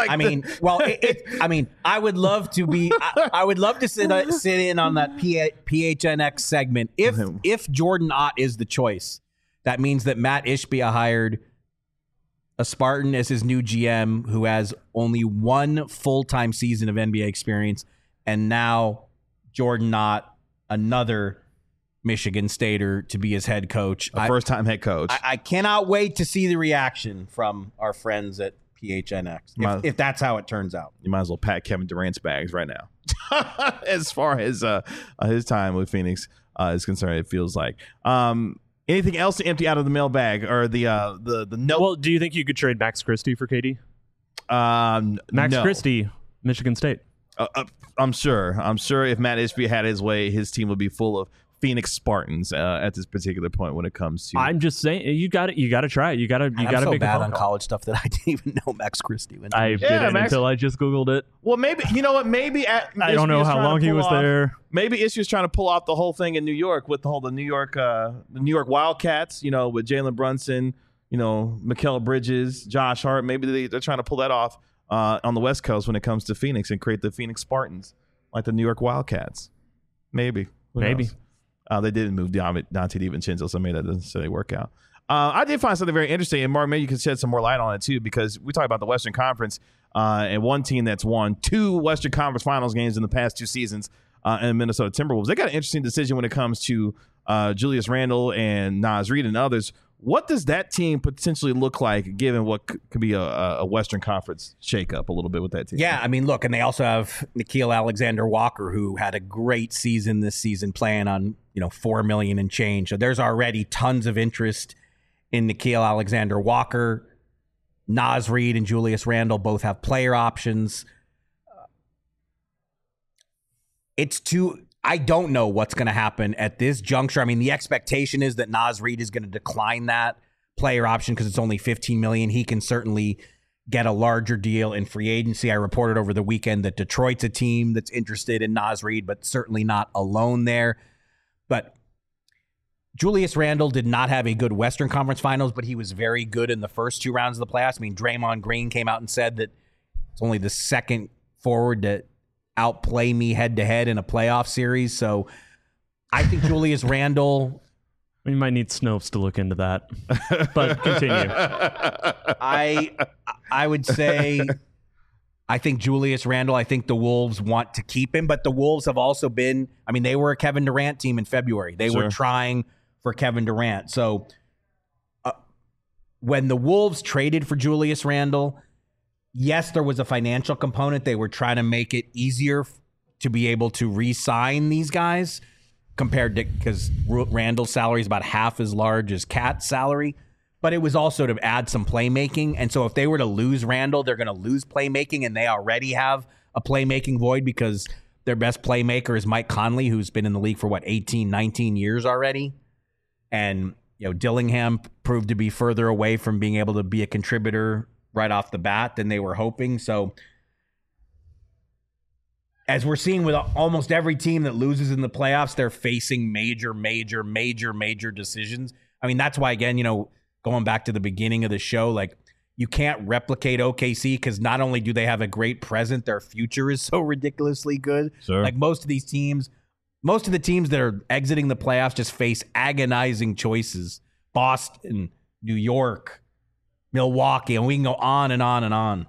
I would love to be. I would love to sit in on that PHNX segment. If Jordan Ott is the choice, that means that Matt Ishbia hired a Spartan as his new GM who has only one full-time season of NBA experience, and now Jordan Ott, another Michigan Stater, to be his head coach. A first-time head coach. I cannot wait to see the reaction from our friends at PHNX, if that's how it turns out. You might as well pack Kevin Durant's bags right now. As far as his time with Phoenix is concerned, it feels like. Anything else to empty out of the mailbag or the note? Well, do you think you could trade Max Christie for KD? No. Christie, Michigan State. I'm sure if Matt Ishbia had his way, his team would be full of Phoenix Spartans at this particular point when it comes to. I'm just saying, you got to try it. You got to so make bad a on college stuff that I didn't even know Max Christie went. I didn't until I just Googled it. Well, maybe you know what? Maybe I don't know how long he was there. Maybe Ishbia's trying to pull off the whole thing in New York with the New York Wildcats. You know, with Jalen Brunson, you know, Mikal Bridges, Josh Hart. Maybe they're trying to pull that off on the West Coast when it comes to Phoenix and create the Phoenix Spartans like the New York Wildcats. Maybe. Who knows? They didn't move Dante DiVincenzo, so maybe that doesn't necessarily work out. I did find something very interesting, and Mark, maybe you could shed some more light on it too, because we talk about the Western Conference and one team that's won 2 Western Conference Finals games in the past 2 seasons, and Minnesota Timberwolves. They got an interesting decision when it comes to Julius Randle and Naz Reid and others. What does that team potentially look like, given what could be a Western Conference shakeup a little bit with that team? Yeah, I mean, look, and they also have Nickeil Alexander-Walker, who had a great season this season, playing on $4 million and change. So there's already tons of interest in Nickeil Alexander-Walker. Naz Reid and Julius Randle both have player options. I don't know what's going to happen at this juncture. I mean, the expectation is that Naz Reid is going to decline that player option because it's only $15 million. He can certainly get a larger deal in free agency. I reported over the weekend that Detroit's a team that's interested in Naz Reid, but certainly not alone there. But Julius Randle did not have a good Western Conference Finals, but he was very good in the first 2 rounds of the playoffs. I mean, Draymond Green came out and said that it's only the second forward to outplay me head-to-head in a playoff series. So I think Julius Randle... We might need Snopes to look into that. But continue. I would say I think Julius Randle, I think the Wolves want to keep him, but the Wolves have also been... I mean, they were a Kevin Durant team in February. They were trying for Kevin Durant. So when the Wolves traded for Julius Randle... Yes, there was a financial component. They were trying to make it easier to be able to re-sign these guys compared to, because Randall's salary is about half as large as Cat's salary, but it was also to add some playmaking. And so if they were to lose Randall, they're going to lose playmaking, and they already have a playmaking void because their best playmaker is Mike Conley, who's been in the league for 18, 19 years already. And, Dillingham proved to be further away from being able to be a contributor right off the bat than they were hoping. So as we're seeing with almost every team that loses in the playoffs, they're facing major decisions. I mean, that's why, again, going back to the beginning of the show, like, you can't replicate OKC because not only do they have a great present, their future is so ridiculously good. Sure. Like most of the teams that are exiting the playoffs just face agonizing choices. Boston, New York, Milwaukee, and we can go on and on and on.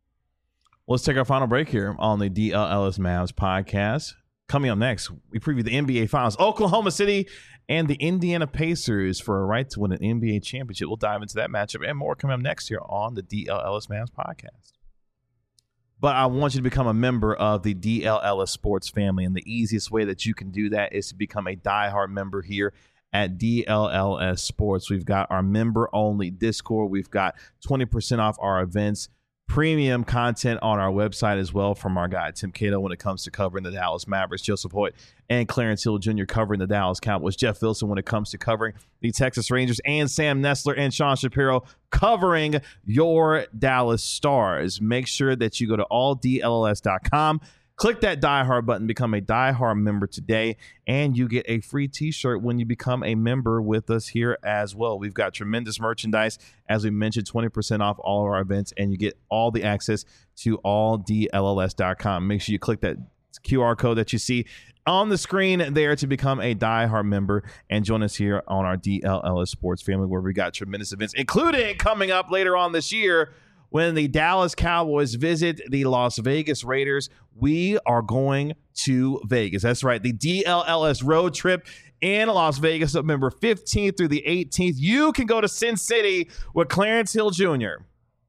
Let's take our final break here on the DLLS Mavs podcast. Coming up next, we preview the NBA Finals. Oklahoma City and the Indiana Pacers for a right to win an NBA championship. We'll dive into that matchup and more coming up next here on the DLLS Mavs podcast. But I want you to become a member of the DLLS Sports family, and the easiest way that you can do that is to become a diehard member here at DLLS Sports. We've got our member-only Discord. We've got 20% off our events, premium content on our website as well from our guy Tim Cato when it comes to covering the Dallas Mavericks, Joseph Hoyt and Clarence Hill Jr. covering the Dallas Cowboys, Jeff Wilson when it comes to covering the Texas Rangers, and Sam Nestler and Sean Shapiro covering your Dallas Stars. Make sure that you go to alldlls.com, click that diehard button, become a diehard member today, and you get a free t-shirt when you become a member with us here as well. We've got tremendous merchandise. As we mentioned, 20% off all of our events, and you get all the access to alldlls.com. Make sure you click that QR code that you see on the screen there to become a diehard member and join us here on our DLLS Sports family, where we got tremendous events, including coming up later on this year, when the Dallas Cowboys visit the Las Vegas Raiders. We are going to Vegas. That's right. The DLLS road trip in Las Vegas, November 15th through the 18th. You can go to Sin City with Clarence Hill Jr.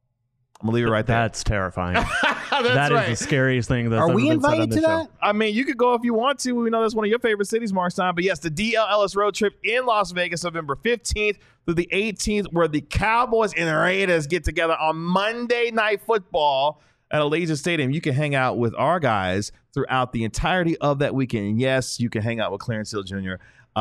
I'm going to leave it right there. That's terrifying. That's right. Is the scariest thing that's Are ever we been said on invited this to that? show. I mean, you could go if you want to. We know that's one of your favorite cities, Mark Stein. But yes, the DLLS road trip in Las Vegas, November 15th through the 18th, where the Cowboys and the Raiders get together on Monday Night Football at Allegiant Stadium. You can hang out with our guys throughout the entirety of that weekend. And yes, you can hang out with Clarence Hill Jr.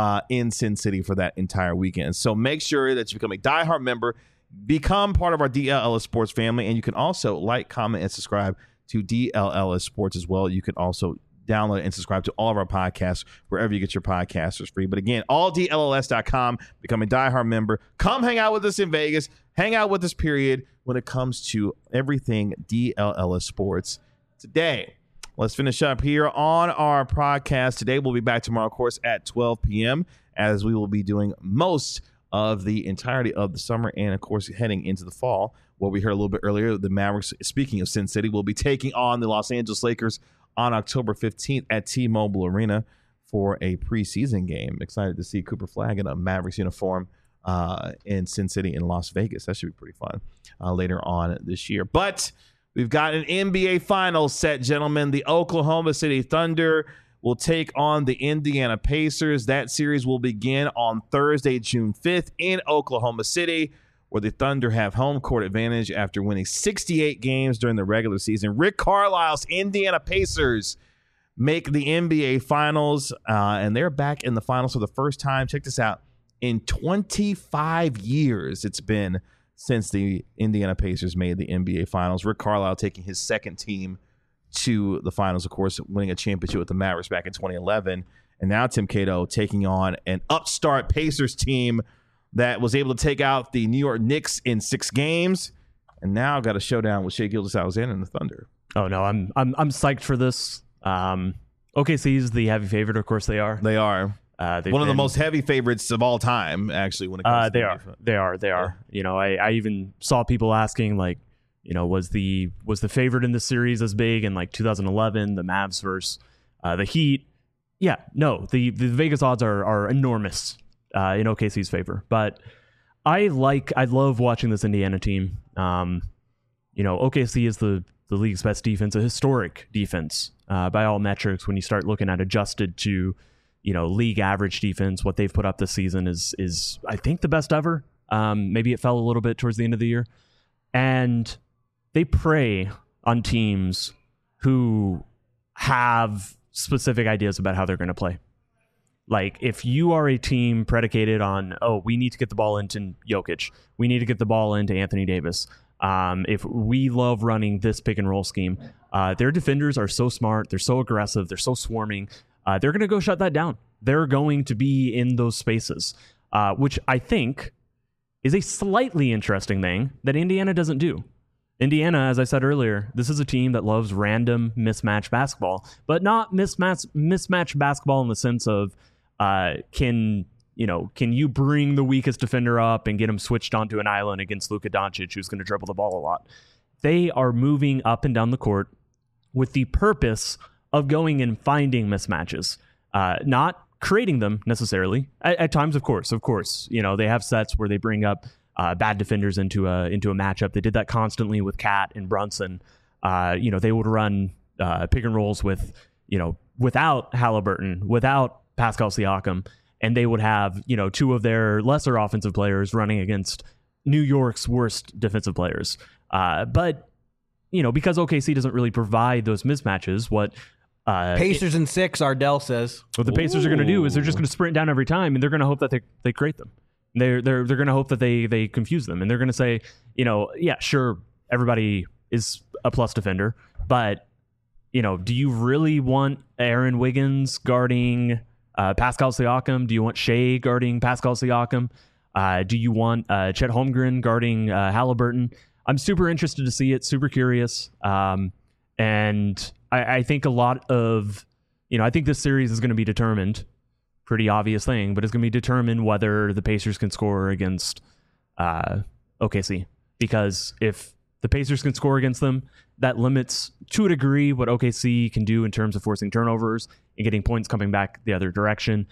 In Sin City for that entire weekend. So make sure that you become a diehard member, become part of our DLLS Sports family, and you can also like, comment, and subscribe to DLLS Sports as well. You can also download and subscribe to all of our podcasts wherever you get your podcasters free. But again, alldlls.com, become a diehard member. Come hang out with us in Vegas. Hang out with us, period, when it comes to everything DLLS Sports today. Let's finish up here on our podcast today. We'll be back tomorrow, of course, at 12 p.m., as we will be doing most of the entirety of the summer and, of course, heading into the fall. What we heard a little bit earlier, the Mavericks, speaking of Sin City, will be taking on the Los Angeles Lakers on October 15th at T-Mobile Arena for a preseason game. Excited to see Cooper Flagg in a Mavericks uniform in Sin City in Las Vegas. That should be pretty fun later on this year. But we've got an NBA Finals set, gentlemen. The Oklahoma City Thunder will take on the Indiana Pacers. That series will begin on Thursday, June 5th in Oklahoma City, where the Thunder have home court advantage after winning 68 games during the regular season. Rick Carlisle's Indiana Pacers make the NBA Finals, and they're back in the finals for the first time. Check this out. In 25 years, it's been since the Indiana Pacers made the NBA Finals. Rick Carlisle taking his second team to the finals, of course, winning a championship with the Mavericks back in 2011. And now Tim Cato taking on an upstart Pacers team that was able to take out the New York Knicks in 6 games, and now got a showdown with Shai Gilgeous-Alexander and the Thunder. Oh no, I'm psyched for this. OKC is the heavy favorite, of course they are. They are one of the most heavy favorites of all time, actually. When it comes to they are. Yeah. You know, I even saw people asking, like, you know, was the favorite in the series as big in like 2011, the Mavs versus the Heat? Yeah, no, the Vegas odds are enormous in OKC's favor, but I love watching this Indiana team. You know, OKC is the league's best defense, a historic defense by all metrics. When you start looking at adjusted to, you know, league average defense, what they've put up this season is I think the best ever. Maybe it fell a little bit towards the end of the year, and they prey on teams who have specific ideas about how they're going to play. Like, if you are a team predicated on, oh, we need to get the ball into Jokic, we need to get the ball into Anthony Davis, If we love running this pick and roll scheme, their defenders are so smart. They're so aggressive. They're so swarming. They're going to go shut that down. They're going to be in those spaces, which I think is a slightly interesting thing that Indiana doesn't do. Indiana, as I said earlier, this is a team that loves random mismatch basketball, but not mismatch basketball in the sense of can you bring the weakest defender up and get him switched onto an island against Luka Doncic, who's going to dribble the ball a lot. They are moving up and down the court with the purpose of going and finding mismatches, not creating them necessarily. At times, of course, they have sets where they bring up bad defenders into a matchup. They did that constantly with Cat and Brunson. They would run pick and rolls with, without Halliburton, without Pascal Siakam, and they would have, two of their lesser offensive players running against New York's worst defensive players. But because OKC doesn't really provide those mismatches, what Pacers in 6, Ardell says. What the Pacers are going to do is they're just going to sprint down every time, and they're going to hope that they create them. They're going to hope that they confuse them, and they're going to say, yeah, sure, everybody is a plus defender, but do you really want Aaron Wiggins guarding Pascal Siakam? Do you want Shea guarding Pascal Siakam? Do you want Chet Holmgren guarding Halliburton? I'm super interested to see it, super curious. And I think a lot of, I think this series is going to be determined, pretty obvious thing, but it's going to be determined whether the Pacers can score against OKC. Because if the Pacers can score against them, that limits, to a degree, what OKC can do in terms of forcing turnovers and getting points coming back the other direction.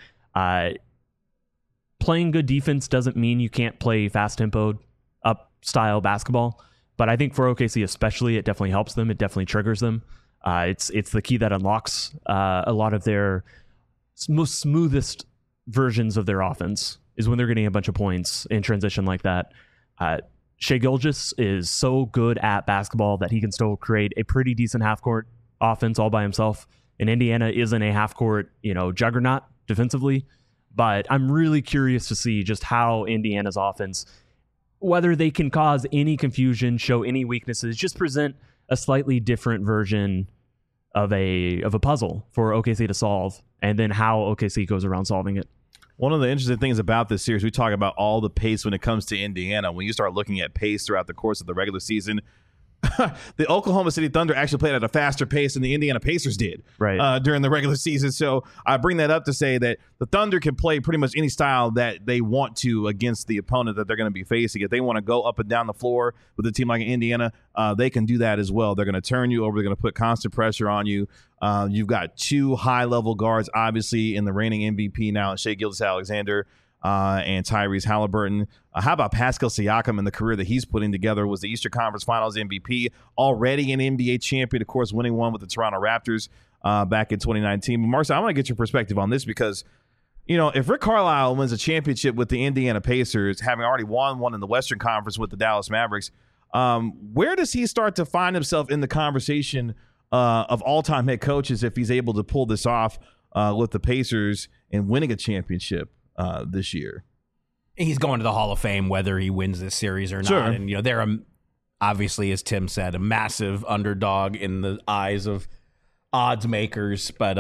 Playing good defense doesn't mean you can't play fast-tempoed, up-style basketball. But I think for OKC especially, it definitely helps them. It definitely triggers them. It's the key that unlocks a lot of their most smoothest versions of their offense is when they're getting a bunch of points in transition like that. Shai Gilgeous is so good at basketball that he can still create a pretty decent half-court offense all by himself. And Indiana isn't a half-court, juggernaut defensively. But I'm really curious to see just how Indiana's offense, whether they can cause any confusion, show any weaknesses, just present a slightly different version of a puzzle for OKC to solve, and then how OKC goes around solving it. One of the interesting things about this series, we talk about all the pace when it comes to Indiana. When you start looking at pace throughout the course of the regular season, the Oklahoma City Thunder actually played at a faster pace than the Indiana Pacers did during the regular season. So I bring that up to say that the Thunder can play pretty much any style that they want to against the opponent that they're going to be facing. If they want to go up and down the floor with a team like Indiana, they can do that as well. They're going to turn you over. They're going to put constant pressure on you. You've got two high-level guards, obviously, in the reigning MVP now, Shai Gilgeous-Alexander and Tyrese Halliburton. How about Pascal Siakam and the career that he's putting together? Was the Eastern Conference Finals MVP, already an NBA champion, of course, winning one with the Toronto Raptors back in 2019. But Marcel, I want to get your perspective on this because, if Rick Carlisle wins a championship with the Indiana Pacers, having already won one in the Western Conference with the Dallas Mavericks, where does he start to find himself in the conversation of all-time head coaches if he's able to pull this off with the Pacers and winning a championship this year? He's going to the Hall of Fame whether he wins this series or not. Sure. And, they're obviously, as Tim said, a massive underdog in the eyes of odds makers. But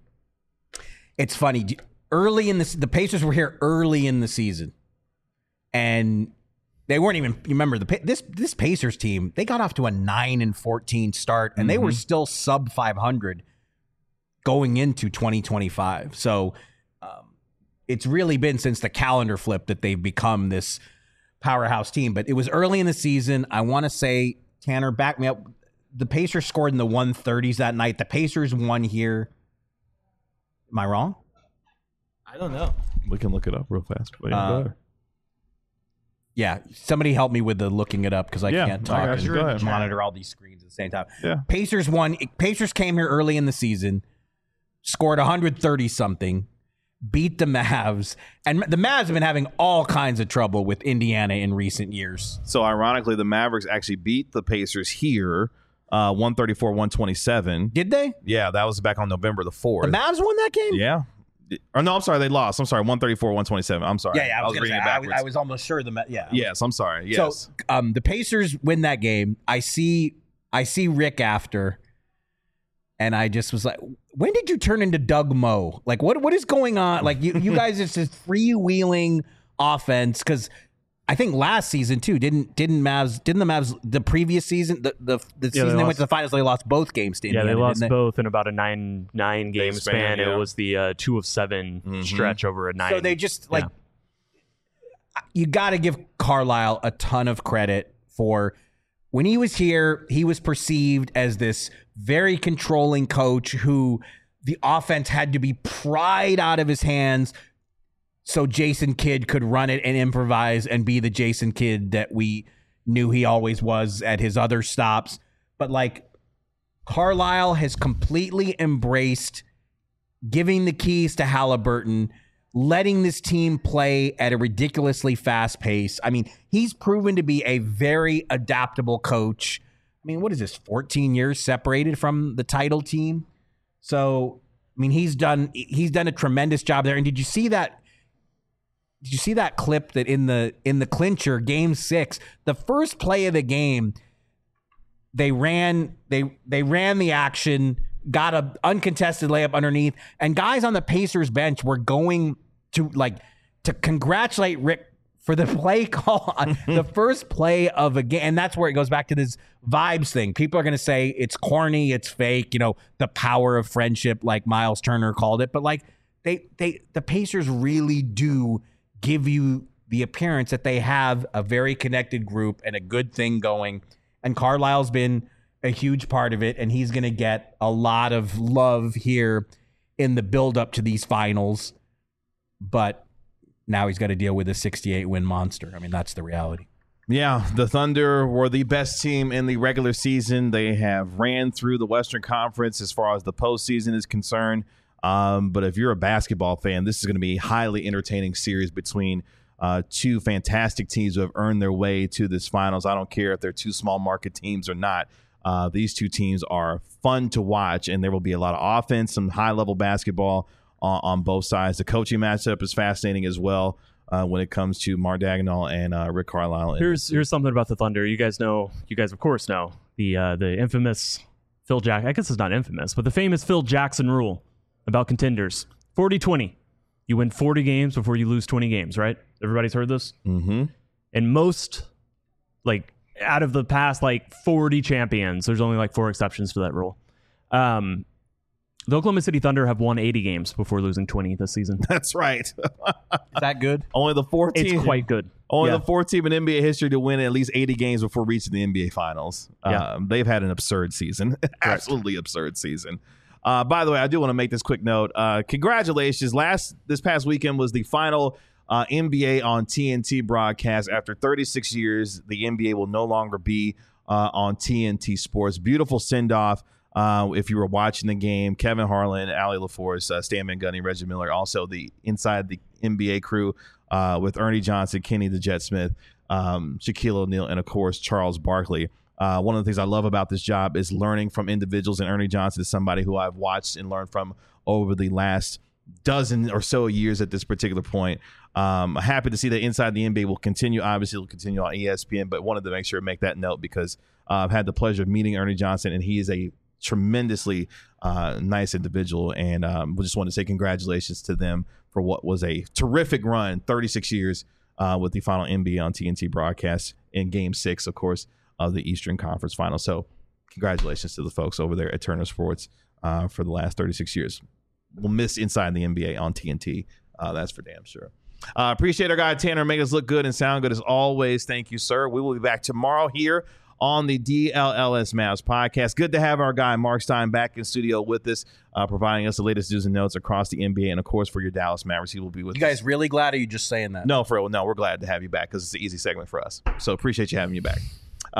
it's funny. Early in the Pacers were here early in the season. And they weren't even, you remember, this Pacers team, they got off to a 9-14 start, and they were still sub 500 going into 2025. So it's really been since the calendar flip that they've become this powerhouse team. But it was early in the season. I want to say, Tanner, back me up. The Pacers scored in the 130s that night. The Pacers won here. Am I wrong? I don't know. We can look it up real fast. Yeah, somebody help me with the looking it up because I can't talk and monitor all these screens at the same time. Yeah. Pacers won. Pacers came here early in the season, scored 130-something, beat the Mavs. And the Mavs have been having all kinds of trouble with Indiana in recent years. So, ironically, the Mavericks actually beat the Pacers here, 134-127. Did they? Yeah, that was back on November the 4th. The Mavs won that game? Yeah. Or no, I'm sorry, they lost. I'm sorry, 134-127. I'm sorry. Yeah, I was reading gonna it say, backwards. I was almost sure yeah. Yes, I'm sorry. Yes. So the Pacers win that game. I see Rick after, and I just was like, when did you turn into Doug Moe? Like, what is going on? Like, you guys, it's this freewheeling offense, because I think last season too, didn't the Mavs the previous season, the season they went to the finals, they lost both games to Indiana. Yeah, they lost both in about a nine game span. yeah. It was the 2 of 7 stretch over a 9. So they just you got to give Carlisle a ton of credit for when he was here. He was perceived as this very controlling coach who the offense had to be pried out of his hands so Jason Kidd could run it and improvise and be the Jason Kidd that we knew he always was at his other stops. But like, Carlisle has completely embraced giving the keys to Halliburton, letting this team play at a ridiculously fast pace. I mean, he's proven to be a very adaptable coach. I mean, what is this, 14 years separated from the title team? So, I mean, he's done a tremendous job there. And did you see that clip that in the clincher, game 6, the first play of the game, they ran the action, got a uncontested layup underneath, and guys on the Pacers bench were going to congratulate Rick for the play call on the first play of a game. And that's where it goes back to this vibes thing. People are going to say it's corny, it's fake, the power of friendship, like Miles Turner called it. But like the Pacers really do give you the appearance that they have a very connected group and a good thing going. And Carlisle's been a huge part of it, and he's going to get a lot of love here in the build-up to these finals. But now he's got to deal with a 68-win monster. I mean, that's the reality. Yeah, the Thunder were the best team in the regular season. They have ran through the Western Conference as far as the postseason is concerned. But if you're a basketball fan, this is going to be a highly entertaining series between two fantastic teams who have earned their way to this finals. I don't care if they're two small market teams or not. These two teams are fun to watch, and there will be a lot of offense, some high-level basketball on both sides. The coaching matchup is fascinating as well when it comes to Mark Daigneault and Rick Carlisle. Here's something about the Thunder. You guys of course know the infamous Phil Jackson. I guess it's not infamous, but the famous Phil Jackson rule about contenders: 40-20. You win 40 games before you lose 20 games, right? Everybody's heard this? Mm-hmm. And most, out of the past, 40 champions, there's only 4 exceptions to that rule. The Oklahoma City Thunder have won 80 games before losing 20 this season. That's right. Is that good? Only the 4 teams. It's quite good. The 4th team in NBA history to win at least 80 games before reaching the NBA Finals. Yeah. They've had an absurd season. Absolutely absurd season. By the way, I do want to make this quick note. Congratulations. This past weekend was the final NBA on TNT broadcast. After 36 years, the NBA will no longer be on TNT Sports. Beautiful send-off. If you were watching the game, Kevin Harlan, Allie LaForce, Stan Van Gundy, Reggie Miller, also the inside the NBA crew with Ernie Johnson, Kenny the Jet Smith, Shaquille O'Neal, and of course Charles Barkley. One of the things I love about this job is learning from individuals, and Ernie Johnson is somebody who I've watched and learned from over the last dozen or so years at this particular point. Happy to see that Inside the NBA will continue. Obviously, it will continue on ESPN, but wanted to make sure to make that note because I've had the pleasure of meeting Ernie Johnson, and he is a tremendously nice individual, and we just want to say congratulations to them for what was a terrific run, 36 years with the final NBA on TNT broadcast in Game 6, of course, of the Eastern Conference Finals. So congratulations to the folks over there at Turner Sports for the last 36 years. We'll miss Inside the NBA on TNT. That's for damn sure. Appreciate our guy Tanner making us look good and sound good as always. Thank you, sir. We will be back tomorrow here on the DLLS Mavs podcast. Good to have our guy Mark Stein back in studio with us, providing us the latest news and notes across the NBA, and of course for your Dallas Mavericks, he will be with us. You guys really glad, or are you just saying that? No, for real. No, we're glad to have you back because it's an easy segment for us. So appreciate you having you back.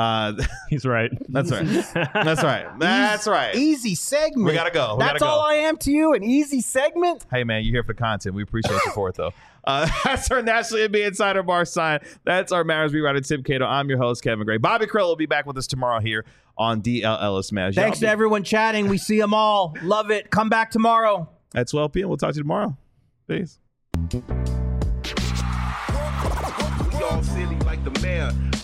He's right. That's right. That's right. That's right. Easy segment. We gotta go. That's all I am to you, an easy segment. Hey man, you're here for content. We appreciate you for it though. That's our National NBA Insider Mark Stein. That's our Mavericks beat writer Tim Cato. I'm your host Kevin Gray. Bobby Krell will be back with us tomorrow here on DLLS Mavs. Thanks to everyone chatting. We see them all. Love it. Come back tomorrow at 12 p.m. We'll talk to you tomorrow. Peace. Y'all silly like the mayor.